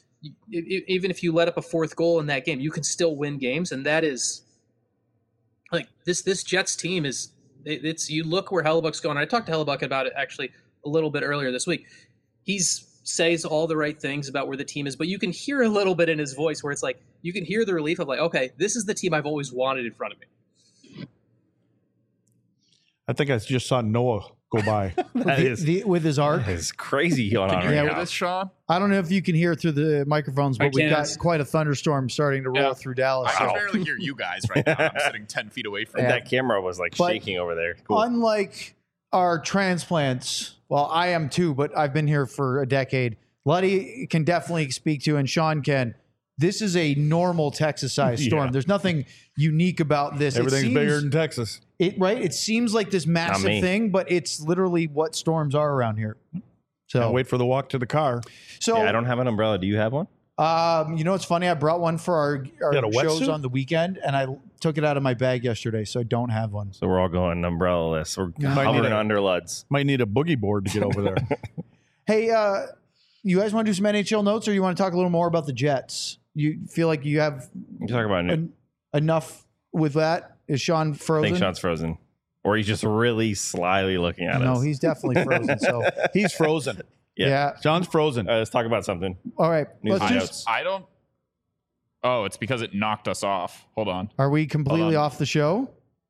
Even if you let up a fourth goal in that game, you can still win games. And that is like this, this Jets team is it's, you look where Hellebuyck's going. I talked to Hellebuyck about it actually a little bit earlier this week. He's says all the right things about where the team is, but you can hear a little bit in his voice where it's like, you can hear the relief of like, okay, this is the team I've always wanted in front of me. I think I just saw Noah go by. That the, is the, with his arc. It's crazy going on Can you right hear now. this, Sean? I don't know if you can hear through the microphones, I but we've got can't. quite a thunderstorm starting to roll Yeah. through Dallas. I can So, barely hear you guys right now. I'm sitting ten feet away from Yeah. you. That camera was like But- shaking over there. Cool. unlike our transplants, well, I am too, but I've been here for a decade. Luddy can definitely speak to, and Sean can. This is a normal Texas-sized storm. Yeah. There's nothing unique about this. Everything's it seems, bigger than Texas. It right. It seems like this massive me. thing, but it's literally what storms are around here. So Can't wait for the walk to the car. So yeah, I don't have an umbrella. Do you have one? Um, you know what's funny? I brought one for our, our You got a shows wetsuit? on the weekend, and I took it out of my bag yesterday, so I don't have one. So we're all going umbrella-less. We're Might hovering need a- under Luds. Might need a boogie board to get over there. Hey, uh, you guys want to do some N H L notes, or you want to talk a little more about the Jets? You feel like you have You talk about it. en- enough with that? Is Sean I frozen? think Sean's frozen. Or he's just really slyly looking at no, us. he's definitely frozen. So He's frozen. Yeah. yeah. John's frozen. Uh, let's talk about something. All right. News Let's and just, notes. I don't. Oh, it's because it knocked us off. Hold on. are we completely Hold on. off the show?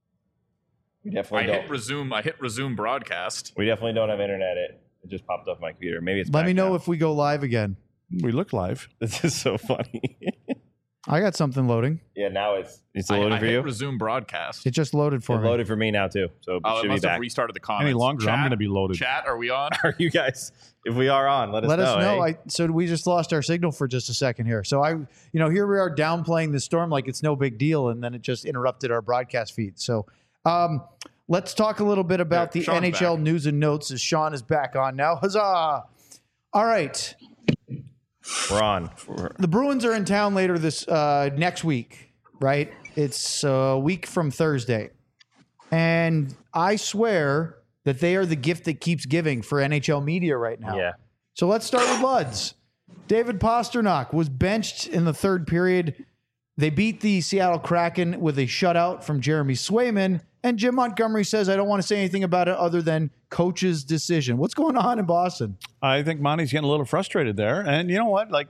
We I definitely hit don't. resume. I hit resume broadcast. We definitely don't have internet. It, it just popped off my computer. Maybe it's Let back me know now. if we go live again. We look live. This is so funny. I got something loading. yeah, now it's it's I, loading I for hit you. resume broadcast. It just loaded for It me. loaded for me now too. So it Oh, it should be must have back. restarted the comments. Any longer, I'm Chat- going to be loaded. Chat, are we on? Are you guys? If we are on, let us Let know. us know. eh? I, so we just lost our signal for just a second here. So I, you know, here we are downplaying the storm like it's no big deal, and then it just interrupted our broadcast feed. So um, let's talk a little bit about There, the Sean's N H L back. news and notes as Sean is back on now. Huzzah! All right, We're on. We're- the Bruins are in town later this uh, next week, right? It's a week from Thursday, and I swear that they are the gift that keeps giving for N H L media right now. Yeah. So let's start with Luds. David Pasternak was benched in the third period. They beat the Seattle Kraken with a shutout from Jeremy Swayman. And Jim Montgomery says, I don't want to say anything about it other than coach's decision. What's going on in Boston? I think Monty's getting a little frustrated there. And you know what? Like,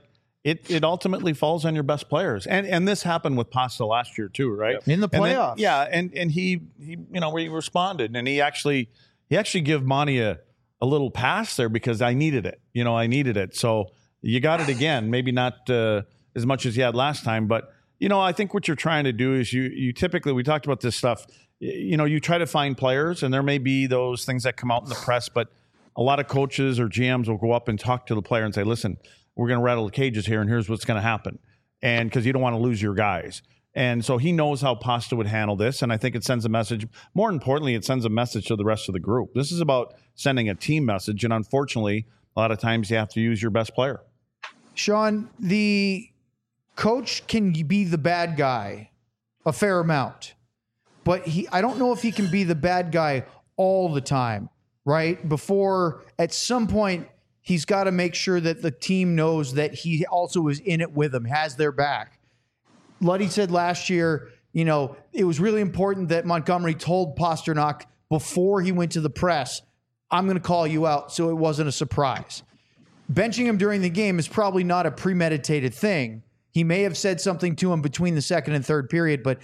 it it ultimately falls on your best players. And and this happened with Pasta last year too, right? In the And then- playoffs. yeah, and and he he you know he responded, and he actually he actually gave Monty a, a little pass there because I needed it. You know, I needed it. So you got it again. Maybe not uh, as much as you had last time, but you know, I think what you're trying to do is you you typically, we talked about this stuff. You know, you try to find players, and there may be those things that come out in the press, but a lot of coaches or G Ms will go up and talk to the player and say, "Listen, we're going to rattle the cages here, and here's what's going to happen." And because you don't want to lose your guys. And so he knows how Pasta would handle this. And I think it sends a message. More importantly, it sends a message to the rest of the group. This is about sending a team message. And unfortunately, a lot of times you have to use your best player. Sean, the coach can be the bad guy a fair amount, but he, I don't know if he can be the bad guy all the time, right? Before at some point, he's got to make sure that the team knows that he also is in it with them, has their back. Luddy said last year, you know, it was really important that Montgomery told Pasternak before he went to the press, I'm going to call you out, so it wasn't a surprise. Benching him during the game is probably not a premeditated thing. He may have said something to him between the second and third period, but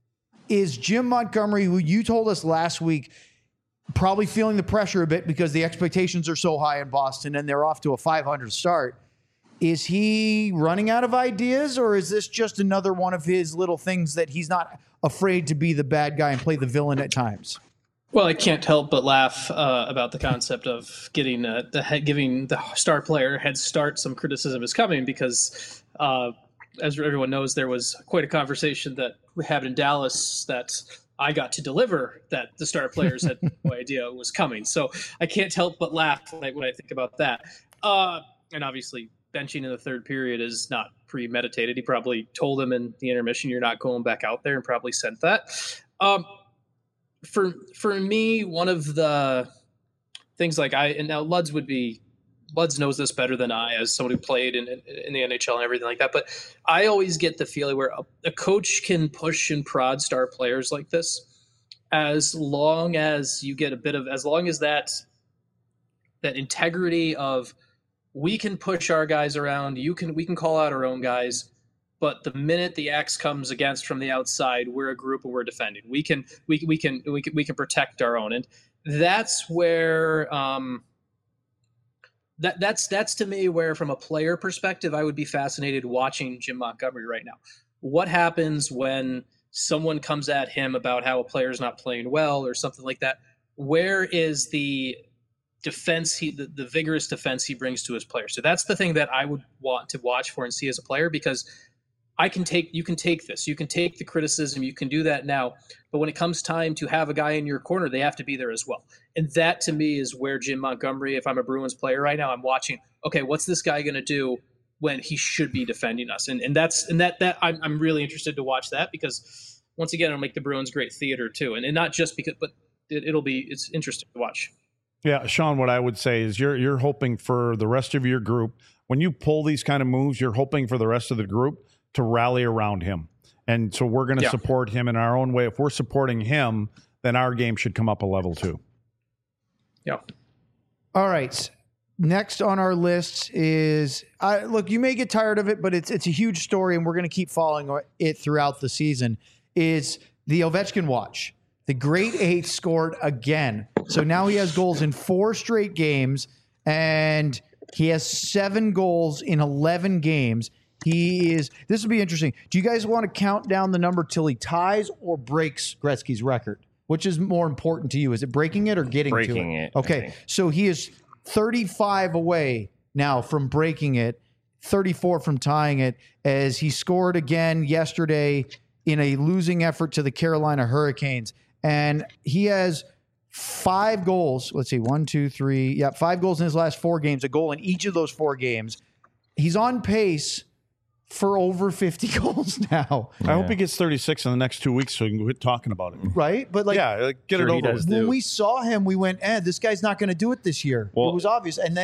is Jim Montgomery, who you told us last week, probably feeling the pressure a bit because the expectations are so high in Boston and they're off to a five hundred start? Is he running out of ideas, or is this just another one of his little things that he's not afraid to be the bad guy and play the villain at times? Well, I can't help but laugh uh, about the concept of getting uh, the head, giving the star player a head start. Some criticism is coming because, uh, as everyone knows, there was quite a conversation that we had in Dallas that I got to deliver, that the star players had no idea was coming. So I can't help but laugh when I, when I think about that. Uh, and obviously, benching in the third period is not premeditated. He probably told him in the intermission, "You're not going back out there," and probably sent that. Um, for for me, one of the things like I and now Luds would be Luds knows this better than I, as someone who played in in the N H L and everything like that. But I always get the feeling where a, a coach can push and prod star players like this, as long as you get a bit of, as long as that that integrity of, we can push our guys around, you can we can call out our own guys, but the minute the X comes against from the outside, we're a group and we're defending. We can we we can we can we can protect our own, and that's where um, that that's that's to me where, from a player perspective, I would be fascinated watching Jim Montgomery right now. What happens when someone comes at him about how a player's not playing well or something like that? Where is the defense he the, the vigorous defense he brings to his players? So that's the thing that I would want to watch for and see as a player, because I can take you can take this you can take the criticism, you can do that now, but when it comes time to have a guy in your corner, they have to be there as well. And that to me is where Jim Montgomery, if I'm a Bruins player right now, I'm watching, okay, what's this guy going to do when he should be defending us? And and that's and that that I'm I'm really interested to watch that, because once again, it'll make the Bruins great theater too, and, and not just because, but it, it'll be it's interesting to watch. Yeah, Sean, what I would say is you're you're hoping for the rest of your group, when you pull these kind of moves, you're hoping for the rest of the group to rally around him. And so we're going to yeah. support him in our own way. If we're supporting him, then our game should come up a level too. Yeah. All right. Next on our list is, uh, look, you may get tired of it, but it's it's a huge story, and we're going to keep following it throughout the season, is the Ovechkin watch. The great eight scored again. So now he has goals in four straight games, and he has seven goals in eleven games. He is, this will be interesting. Do you guys want to count down the number till he ties or breaks Gretzky's record? Which is more important to you? Is it breaking it or getting breaking to it? it? Okay. So he is thirty-five away now from breaking it, thirty-four from tying it, as he scored again yesterday in a losing effort to the Carolina Hurricanes. And he has five goals. Let's see, one, two, three. Yeah, five goals in his last four games, a goal in each of those four games. He's on pace for over fifty goals now. I yeah. hope he gets thirty-six in the next two weeks so we can quit talking about it. Right? But like, yeah, like, get sure it over with. When we saw him, we went, eh, this guy's not going to do it this year. Well, it was obvious. And then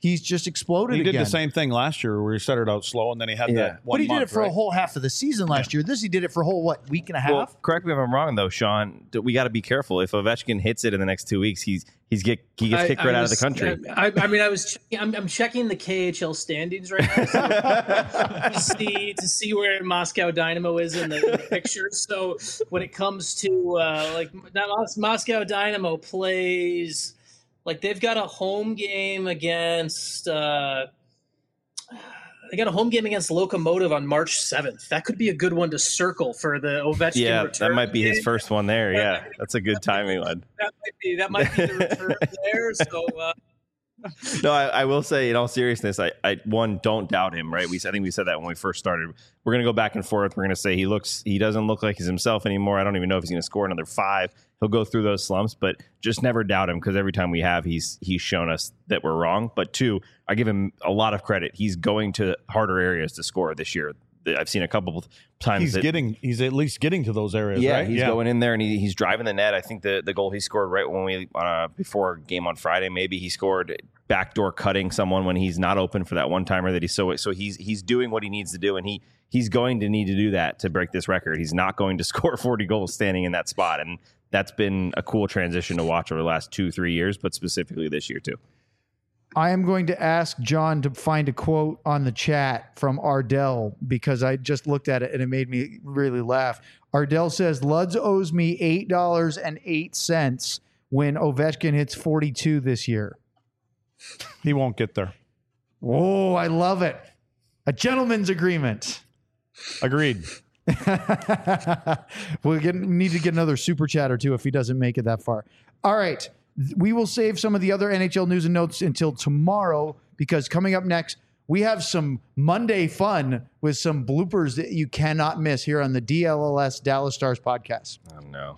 he's just exploded He did again. the same thing last year where he started out slow and then he had Yeah. that one But he did month, it for right? a whole half of the season last year. This he did it for a whole what week and a half. Well, correct me if I'm wrong, though, Sean. d- We got to be careful. If Ovechkin hits it in the next two weeks, he's he's get he gets I- kicked I right out of was- the country. I, I mean, I was checking, I'm, I'm checking the K H L standings right now so to see to see where Moscow Dynamo is in the, in the picture. So when it comes to uh, like that Mos- Moscow Dynamo plays, like they've got a home game against. Uh, They got a home game against Lokomotiv on March seventh. That could be a good one to circle for the Ovechkin Yeah, return. that might be his game. first one there. Yeah, that's a good timing, lad. That might be that might be the return there. So uh, No, I, I will say, in all seriousness, I, I one don't doubt him. Right? We I think we said that when we first started. We're gonna go back and forth. We're gonna say he looks he doesn't look like he's himself anymore. I don't even know if he's gonna score another five. He'll go through those slumps, but just never doubt him because every time we have, he's he's shown us that we're wrong. But two, I give him a lot of credit. He's going to harder areas to score this year. I've seen a couple of times. He's that, getting, he's at least getting to those areas, yeah, right? he's going in there and he, he's driving the net. I think the, the goal he scored right when we uh, before game on Friday, maybe he scored backdoor cutting someone when he's not open for that one timer that he's so so he's he's doing what he needs to do, and he he's going to need to do that to break this record. He's not going to score forty goals standing in that spot, and that's been a cool transition to watch over the last two three years, but specifically this year too. I am going to ask John to find a quote on the chat from Ardell because I just looked at it and it made me really laugh. Ardell says, Luds owes me eight dollars and eight cents when Ovechkin hits forty-two this year. He won't get there. Oh, I love it. A gentleman's agreement. Agreed. We'll get, need to get another super chat or two if he doesn't make it that far. All right. We will save some of the other N H L news and notes until tomorrow because coming up next, we have some Monday fun with some bloopers that you cannot miss here on the D L L S Dallas Stars podcast. Oh no.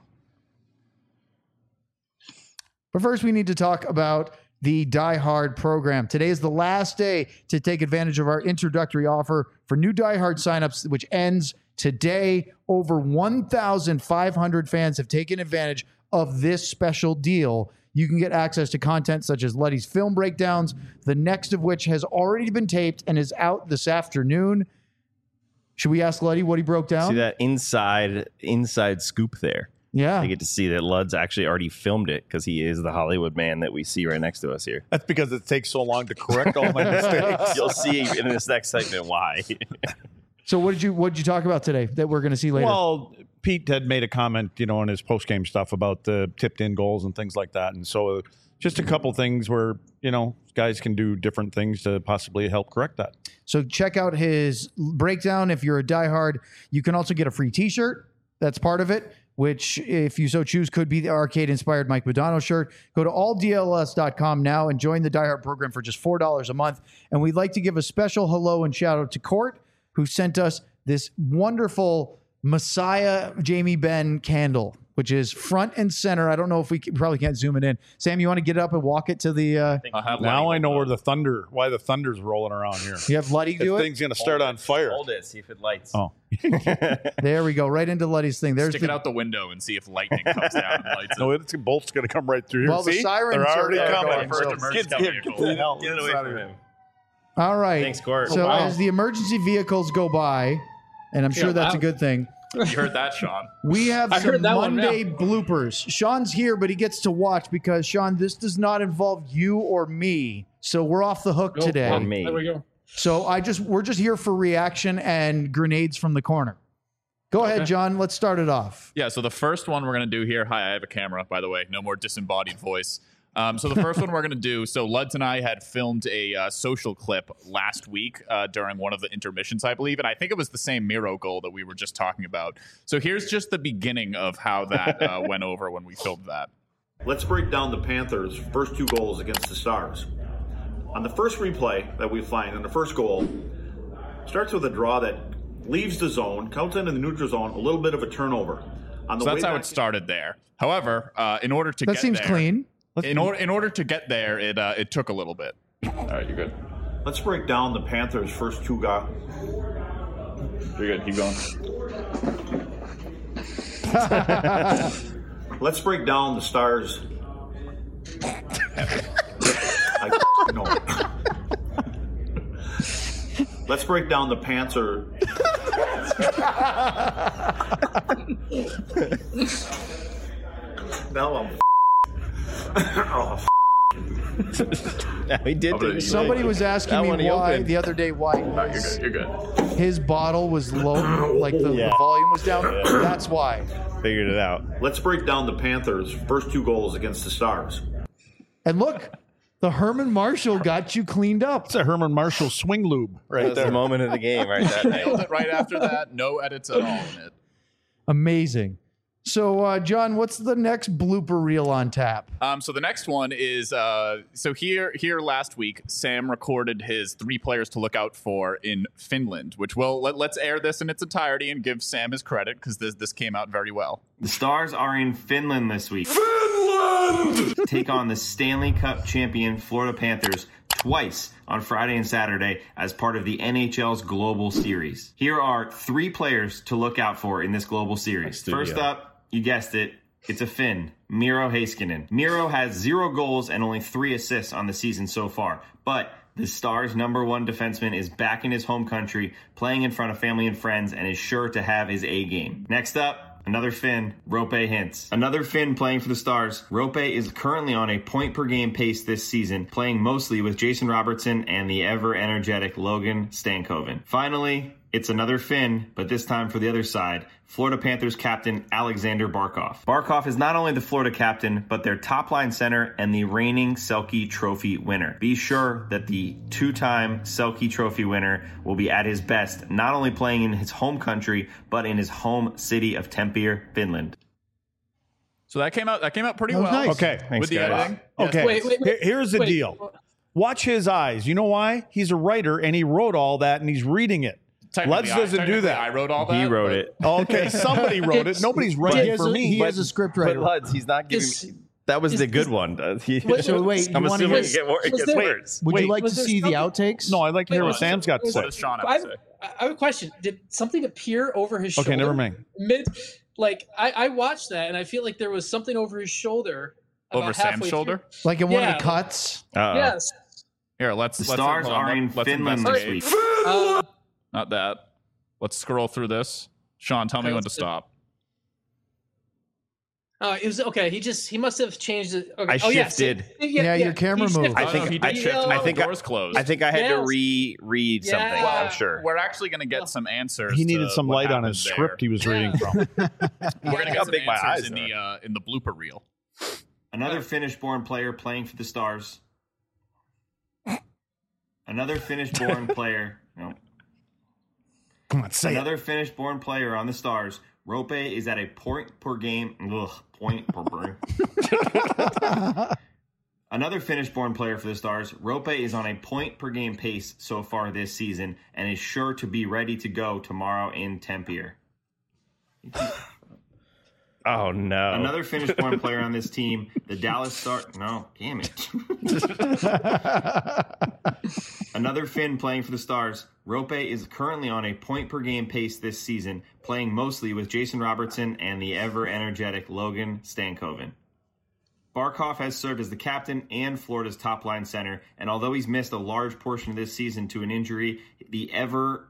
But first, we need to talk about the Die Hard program. Today is the last day to take advantage of our introductory offer for new Die Hard signups, which ends today. Over one thousand five hundred fans have taken advantage of this special deal. You can get access to content such as Luddy's film breakdowns, the next of which has already been taped and is out this afternoon. Should we ask Luddy what he broke down? See that inside inside scoop there. Yeah. I get to see that Lud's actually already filmed it because he is the Hollywood man that we see right next to us here. That's because it takes so long to correct all my mistakes. You'll see in this next segment why. So what did you what did you talk about today that we're going to see later? Well, Pete had made a comment, you know, in his post-game stuff about the tipped-in goals and things like that. And so just a couple things where, you know, guys can do different things to possibly help correct that. So check out his breakdown. If you're a diehard, you can also get a free t-shirt. That's part of it, which if you so choose could be the arcade-inspired Mike Modano shirt. Go to all D L S dot com now and join the diehard program for just four dollars a month. And we'd like to give a special hello and shout out to Court, who sent us this wonderful Messiah Jamie Benn candle, which is front and center. I don't know if we can, probably can't zoom it in. Sam, you want to get up and walk it to the... Uh, Now I know where the thunder, why the thunder's rolling around here. you have Luddy do This it? thing's going to start on fire. Hold it, see if it lights. Oh. There we go, right into Luddy's thing. There's Stick the, it out the window and see if lightning comes down and lights No, it. it's bolt's going to come right through here. Well, the See? sirens They're are already there coming. going, so- First Get, emergency get, get vehicle. the hell Get it away inside from of him. All right. Thanks, Court. So Oh, wow. as the emergency vehicles go by, and I'm sure Yeah, that's wow. a good thing, You heard that, Sean? we have I some heard that one, Monday yeah. bloopers. Sean's here, but he gets to watch because, Sean, this does not involve you or me. So we're off the hook Oh, today. Or me. There we go. So I just we're just here for reaction and grenades from the corner. Go ahead, Okay. John. Let's start it off. Yeah, so the first one we're going to do here. Hi, I have a camera, by the way. No more disembodied voice. Um, so the first one we're going to do. So Luds and I had filmed a uh, social clip last week uh, during one of the intermissions, I believe. And I think it was the same Miro goal that we were just talking about. So here's just the beginning of how that uh, went over when we filmed that. Let's break down the Panthers' first two goals against the Stars. On the first replay that we find, on the first goal, starts with a draw that leaves the zone, counts into the neutral zone, a little bit of a turnover. On the So that's way how back- it started there. However, uh, in order to That get seems there, clean. In order, in order to get there, it uh, it took a little bit. All right, you're good. Let's break down the Panthers' first two goals. You're good. Keep going. Let's break down the Stars. I know. Let's break down the Panther. Now I'm. Oh, No, he did. Okay, do- Somebody was asking That one me he why opened. the other day why no, you're good. You're good. his bottle was low, like the, Yeah. the volume was down. That's why. Figured it out. let's break down the Panthers' first two goals against the Stars. And look, the Herman Marshall got you cleaned up. It's a Herman Marshall swing lube right That's there. the moment of the game right that Nailed night. it right after that. No edits at all in it. Amazing. So, uh, John, what's the next blooper reel on tap? Um, so the next one is uh, so here here last week, Sam recorded his three players to look out for in Finland, which will let, let's air this in its entirety and give Sam his credit because this this came out very well. The Stars are in Finland this week. Finland! Take on the Stanley Cup champion Florida Panthers twice on Friday and Saturday as part of the N H L's Global Series. Here are three players to look out for in this Global Series. Studio. First up, you guessed it, it's a Finn, Miro Heiskanen. Miro has zero goals and only three assists on the season so far, but the Stars' number one defenseman is back in his home country, playing in front of family and friends, and is sure to have his A game. Next up, another Finn, Rope Hintz. Another Finn playing for the Stars. Rope is currently on a point per game pace this season, playing mostly with Jason Robertson and the ever energetic Logan Stankoven. Finally, it's another Finn, but this time for the other side, Florida Panthers captain Alexander Barkov. Barkov is not only the Florida captain, but their top line center and the reigning Selke Trophy winner. Be sure that the two-time Selke Trophy winner will be at his best, not only playing in his home country, but in his home city of Tampere, Finland. So that came out that came out pretty That was well. nice. Okay. With Thanks, the guys. editing. Okay. Wait, wait, wait. Here- Here's the Wait. deal. Watch his eyes. You know why? He's a writer and he wrote all that and he's reading it. Technically, Let's I- doesn't do technically that. I wrote all that. He wrote but- it. Okay, somebody wrote it. Nobody's He writing has for a- me. He has a script But writer. Luds, he's not giving. Is- that was is- the good is- one. Uh, he- Wait, So wait, you I'm wanna assuming hear- it, get more, it was gets there- worse. Would Wait, you like to was there see the something- outtakes? No, I'd like to Wait, hear what what- Sam's got to What say. does Sean have I to have, say? I have a question. Did something appear over his shoulder? Okay, never mind. Mid, like I, I watched that and I feel like there was something over his shoulder. about Over Sam's halfway shoulder? through. Like in one of Yeah. the cuts? Uh-oh. Yes. Here, let's. The let's Stars hold on, are let- in let's Finland this investigate. week. Uh, Not that. Let's scroll through this. Sean, tell me Okay, when to let's do- stop. uh, it was okay. He just he must have changed it. Okay. I oh, yeah, shifted. see- Yeah, your camera he moved. shifted. I think oh, no, he I did Yeah. shift. I I think the I- doors closed. I think I had Yes. to re-read something. Yeah. I'm sure. We're actually going to get some answers. He needed to some what light on his happened script he there. was Yeah. reading from. We're going to How get some big my answers eyes in are. the uh, in the blooper reel. Another Finnish-born player playing for the Stars. Another Finnish-born player. No. Come on, say it. Another Finnish-born player on the Stars. Rope is at a point per game. Ugh, point per game. Another Finnish-born player for the Stars. Rope is on a point per game pace so far this season and is sure to be ready to go tomorrow in Tampere. Oh no! Another Finnish-born player on this team, the Dallas Stars. No, damn it. Another Finn playing for the Stars. Rope is currently on a point per game pace this season, playing mostly with Jason Robertson and the ever energetic Logan Stankoven. Barkov has served as the captain and Florida's top line center, and although he's missed a large portion of this season to an injury, the ever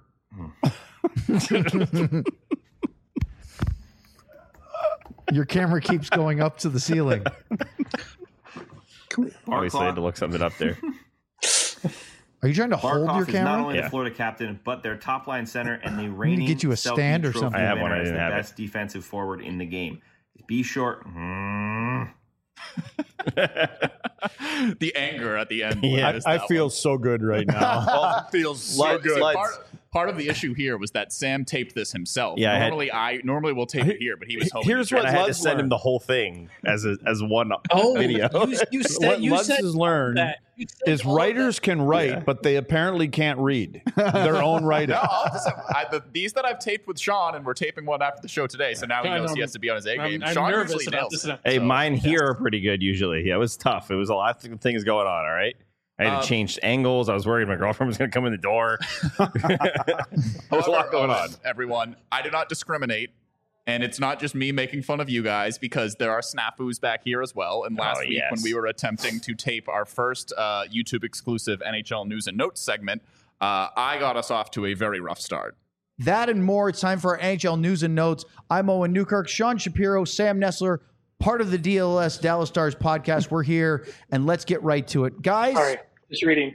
Your camera keeps going up to the ceiling. Obviously, I had to look something up there. Are you trying to hold Barkov your is not camera? only Yeah. the Florida captain, but their top line center and the need to reigning get you a Selke stand or Trophy something. I have one, winner I as didn't the have it. best defensive forward in the game. Be short. Mm. The anger at the end. Yeah, is I that feel one. so good right now. Oh, it feels so Luds, good. Luds. Part, part of the issue here was that Sam taped this himself. Yeah, I had- normally I normally will tape it here, but he was home. Here's in what And I had to Luds send him learned. the whole thing as a, as one Oh, video. You, you said What you Lutz said has learned that. You said is all of writers that. can write, Yeah. but they apparently can't read their own writing. No, I'll just have, I, the, these that I've taped with Sean, and we're taping one after the show today, so now he Yeah, knows I'm- he has to be on his A I'm- game. I'm Sean nervous usually about nails this it. now. Hey, So, mine yes. here are pretty good usually. Yeah, it was tough. It was a lot of things going on, all right? I had Um, to change angles. I was worried my girlfriend was going to come in the door. There's a lot going on. Everyone, I do not discriminate. And it's not just me making fun of you guys because there are snafus back here as well. And last Oh, week yes. when we were attempting to tape our first uh, YouTube exclusive N H L news and notes segment, Uh, I got us off to a very rough start. That and more. It's time for our N H L news and notes. I'm Owen Newkirk, Sean Shapiro, Sam Nessler, part of the D L S Dallas Stars podcast. We're here, and let's get right to it. Guys, All right, just reading.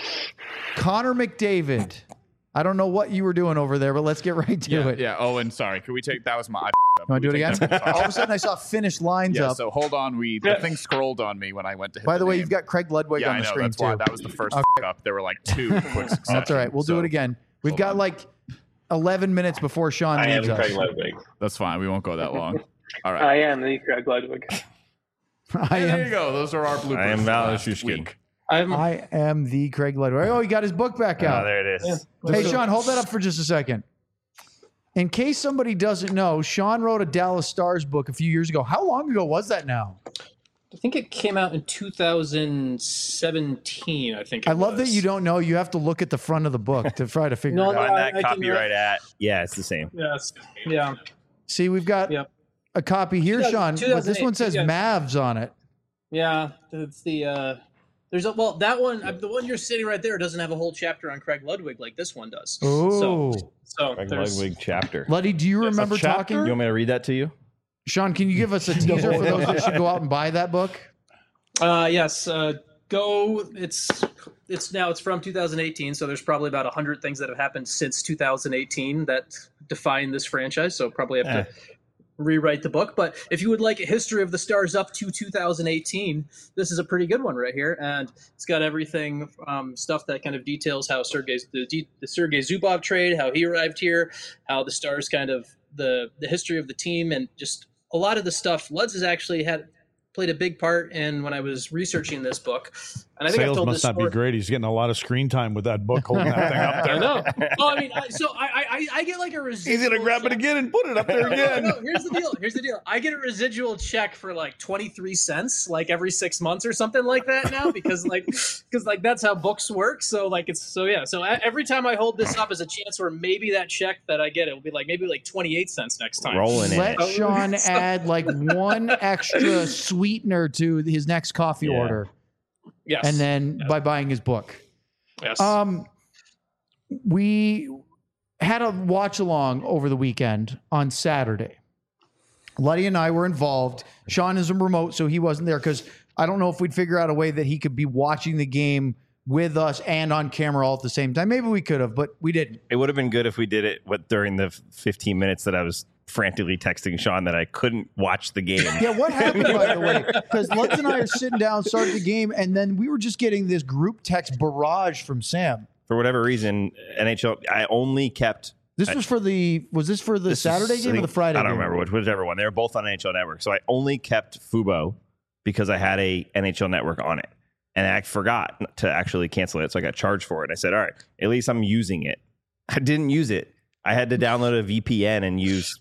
Connor McDavid. I don't know what you were doing over there, but let's get right to Yeah, it. yeah. Owen, sorry. Can we take that was my. I You want to do it again? All of a sudden, I saw finished lines Yeah, up. so hold on. We the thing scrolled on me when I went to hit By the way, name. you've got Craig Ludwig yeah, on I the know, screen, that's too. why that was the first Okay. f- up. There were like two in quick succession. That's all right. We'll do So it again. We've hold got on. like eleven minutes before Sean I am leaves us. Craig Ludwig. That's fine. We won't go that long. All right. I am the Craig Ludwig. I Hey, there you am, go. Those are our bloopers. I am for Val last Shushkin. week. I'm I am the Craig Ludwig. Oh, he got his book back Oh, out. there it is. Hey, Sean, hold that up for just a second. In case somebody doesn't know, Sean wrote a Dallas Stars book a few years ago. How long ago was that now? I think it came out in two thousand seventeen. I think. It I love was. that you don't know. You have to look at the front of the book to try to figure No, it no, out. Find I- that I can, copyright uh, at. Yeah, it's the same. Yes. Yeah. See, we've got Yep. a copy here, two Sean, thousand- but this one says yeah. Mavs on it. Yeah. It's the. Uh, there's a well that one uh, the one you're sitting right there doesn't have a whole chapter on Craig Ludwig like this one does. Oh. So, so Craig there's. Ludwig chapter. Luddy, do you remember chapter? talking? You want me to read that to you? Sean, can you give us a teaser for those that should go out and buy that book? Uh, yes. Uh, go. It's it's now it's from two thousand eighteen, so there's probably about a hundred things that have happened since two thousand eighteen that define this franchise. So probably have Eh. to rewrite the book. But if you would like a history of the Stars up to two thousand eighteen, this is a pretty good one right here, and it's got everything um, stuff that kind of details how Sergei the, de- the Sergei Zubov trade, how he arrived here, how the Stars kind of the the history of the team, and just a lot of the stuff. Luds has actually had played a big part in when I was researching this book, and I think I've Sales told must this not story. be great. He's getting a lot of screen time with that book holding that thing up there. I know. Well, I mean, I, so I, I I get like a residual. He's gonna grab it check. again and put it up there No, again. no, here's the deal. Here's the deal. I get a residual check for like twenty-three cents, like every six months or something like that now, because like, because like that's how books work. So like it's so yeah. So a- every time I hold this up as a chance where maybe that check that I get it will be like maybe like twenty-eight cents next time. Rolling in Let it. Sean add like one extra sweetener to his next coffee Yeah. order, Yes. and then by buying his book. yes. Um, we had a watch along over the weekend on Saturday. Luddy and I were involved. Sean is a remote, so he wasn't there because I don't know if we'd figure out a way that he could be watching the game with us and on camera all at the same time. Maybe we could have, but we didn't. It would have been good if we did it what, during the fifteen minutes that I was frantically texting Sean that I couldn't watch the game. Yeah, what happened, by the way? Because Lutz and I are sitting down, started the game, and then we were just getting this group text barrage from Sam. For whatever reason, N H L, I only kept. This was for the was this for the this Saturday is- game I or the think- Friday I don't game? remember which, whichever one. They were both on N H L Network. So I only kept Fubo because I had a N H L Network on it. And I forgot to actually cancel it. So I got charged for it. I said, all right, at least I'm using it. I didn't use it. I had to download a V P N and use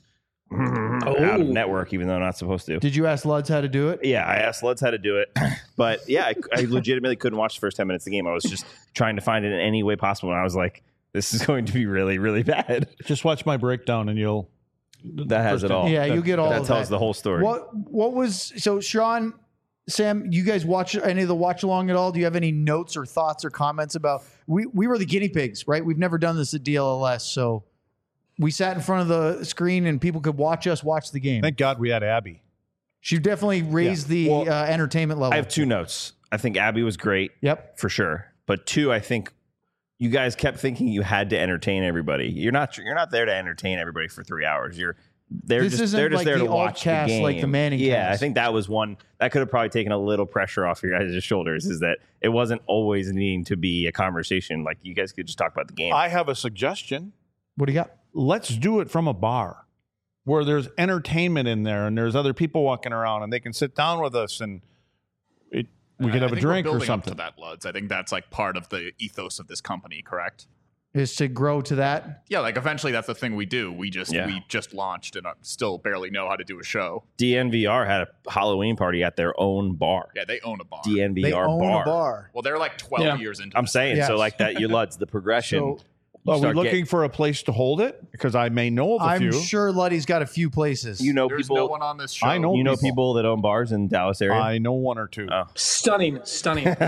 out of network, even though I'm not supposed to. Did you ask Lutz how to do it? Yeah, I asked Luds how to do it, but yeah, I, I legitimately couldn't watch the first ten minutes of the game. I was just trying to find it in any way possible, and I was like, "This is going to be really, really bad." Just watch my breakdown and you'll. That has it all. Yeah, you get all that of tells that. the whole story. What what was so Sean, Sam? You guys watch any of the watch along at all? Do you have any notes or thoughts or comments about? We we were the guinea pigs, right? We've never done this at D L L S, so we sat in front of the screen and people could watch us watch the game. Thank God we had Abby. She definitely raised Yeah. the Well, uh, entertainment level. I have two notes. I think Abby was great. Yep, for sure. But two, I think you guys kept thinking you had to entertain everybody. You're not. You're not there to entertain everybody for three hours. You're. They're This just. isn't They're just like there the to watch the alt-cast game. like the Manning Yeah, cast. I think that was one that could have probably taken a little pressure off your guys' shoulders. Is that it wasn't always needing to be a conversation. Like you guys could just talk about the game. I have a suggestion. What do you got? Let's do it from a bar where there's entertainment in there and there's other people walking around and they can sit down with us and it, we could I have a think we're drink or building something. Up to that, Luds. I think that's like part of the ethos of this company, correct? Is to grow to that. Yeah, like eventually that's the thing we do. We just Yeah. we just launched and uh, still barely know how to do a show. D N V R had a Halloween party at their own bar. Yeah, they own a bar. D N V R They own bar. a bar. Well, they're like twelve Yeah. years into. I'm this saying Yes. so like that. You Luds the progression. So Are we start looking getting- for a place to hold it? Because I may know of a I'm few. sure Luddy's got a few places. You know There's people. no one on this show. I know you know people. people that own bars in Dallas area. I know one or two. Oh. Stunning, stunning. Put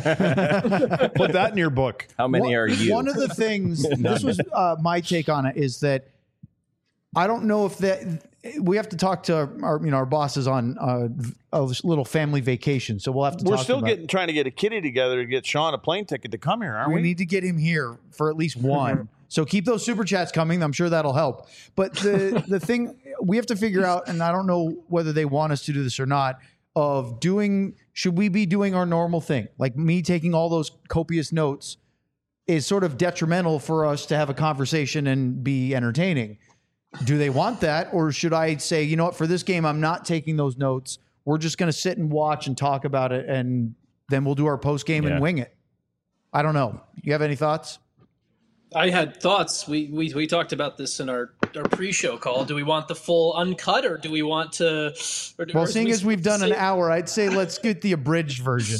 that in your book. How many One- are you? One of the things, this was uh, my take on it, is that I don't know if that we have to talk to our, you know, our bosses on uh, a little family vacation. So we'll have to We're talk still about getting trying to get a kitty together to get Sean a plane ticket to come here, aren't we we? need to get him here for at least one. So keep those super chats coming. I'm sure that'll help. But the the thing we have to figure out, and I don't know whether they want us to do this or not, of doing, should we be doing our normal thing? Like me taking all those copious notes is sort of detrimental for us to have a conversation and be entertaining. Do they want that? Or should I say, you know what, for this game, I'm not taking those notes. We're just going to sit and watch and talk about it, and then we'll do our post game Yeah. and wing it. I don't know. You have any thoughts? I had thoughts. We, we we talked about this in our, our pre-show call. Do we want the full uncut, or do we want to? Or, Well, or seeing we as we've done an say- hour, I'd say let's get the abridged version.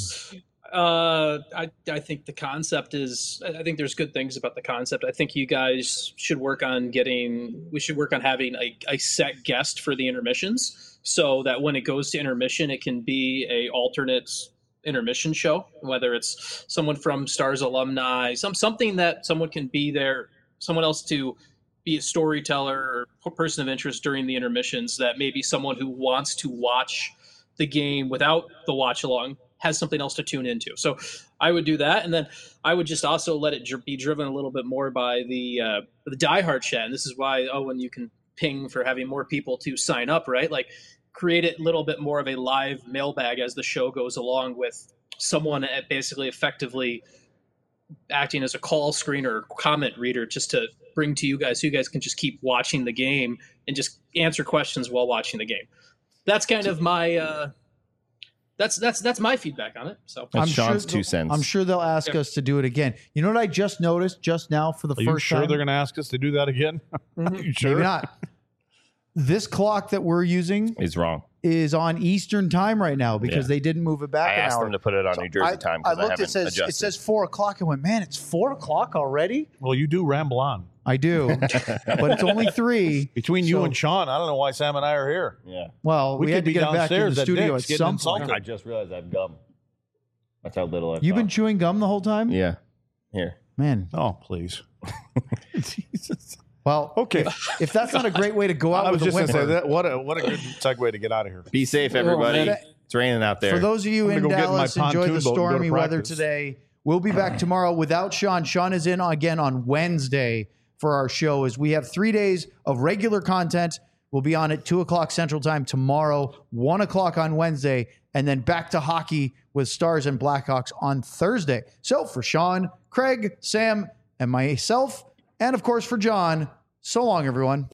Uh, I I think the concept is. I think there's good things about the concept. I think you guys should work on getting. We should work on having a, a set guest for the intermissions, so that when it goes to intermission, it can be a alternate intermission show. Whether it's someone from Stars alumni, some something that someone can be there, someone else to be a storyteller or person of interest during the intermissions. That maybe someone who wants to watch the game without the watch along has something else to tune into. So I would do that. And then I would just also let it dr- be driven a little bit more by the, uh, the diehard chat. And this is why, oh, when you can ping for having more people to sign up, right? Like create it a little bit more of a live mailbag as the show goes along, with someone at basically effectively acting as a call screener or comment reader, just to bring to you guys, so you guys can just keep watching the game and just answer questions while watching the game. That's kind of my, uh, That's that's that's my feedback on it. So That's I'm Sean's sure two they'll- cents. I'm sure they'll ask Yeah. us to do it again. You know what I just noticed just now for the Are you first sure time? they're going to ask us to do that again? Are you sure? Maybe not. This clock that we're using Is wrong. is on Eastern time right now because Yeah. they didn't move it back I an asked hour. them to put it on So New Jersey I, time I because I, looked. haven't it says adjusted. it says four o'clock. I went, man, it's four o'clock already. Well, you do ramble on. I do, but it's only three. Between you So- and Sean, I don't know why Sam and I are here. yeah. Well, we, We had could to be get back in the downstairs at studio Dick's at getting some insulted. point. I just realized I have gum. That's how little I've You've been thought. chewing gum the whole time, Yeah. Here. man. Oh, please. Jesus. Well, Okay. if, if that's not a great way to go out I was with a just going to say whimper, that. What a what a good segue to get out of here. Be safe, everybody. man. It's raining out there. For those of you I'm in gonna go get in my Dallas, enjoy pontoon the boat and go to stormy weather practice. today. We'll be back tomorrow without Sean. Sean is in again on Wednesday for our show, as we have three days of regular content. We'll be on at two o'clock Central Time tomorrow, one o'clock on Wednesday, and then back to hockey with Stars and Blackhawks on Thursday. So for Sean, Craig, Sam, and myself, and of course for John, so long, everyone.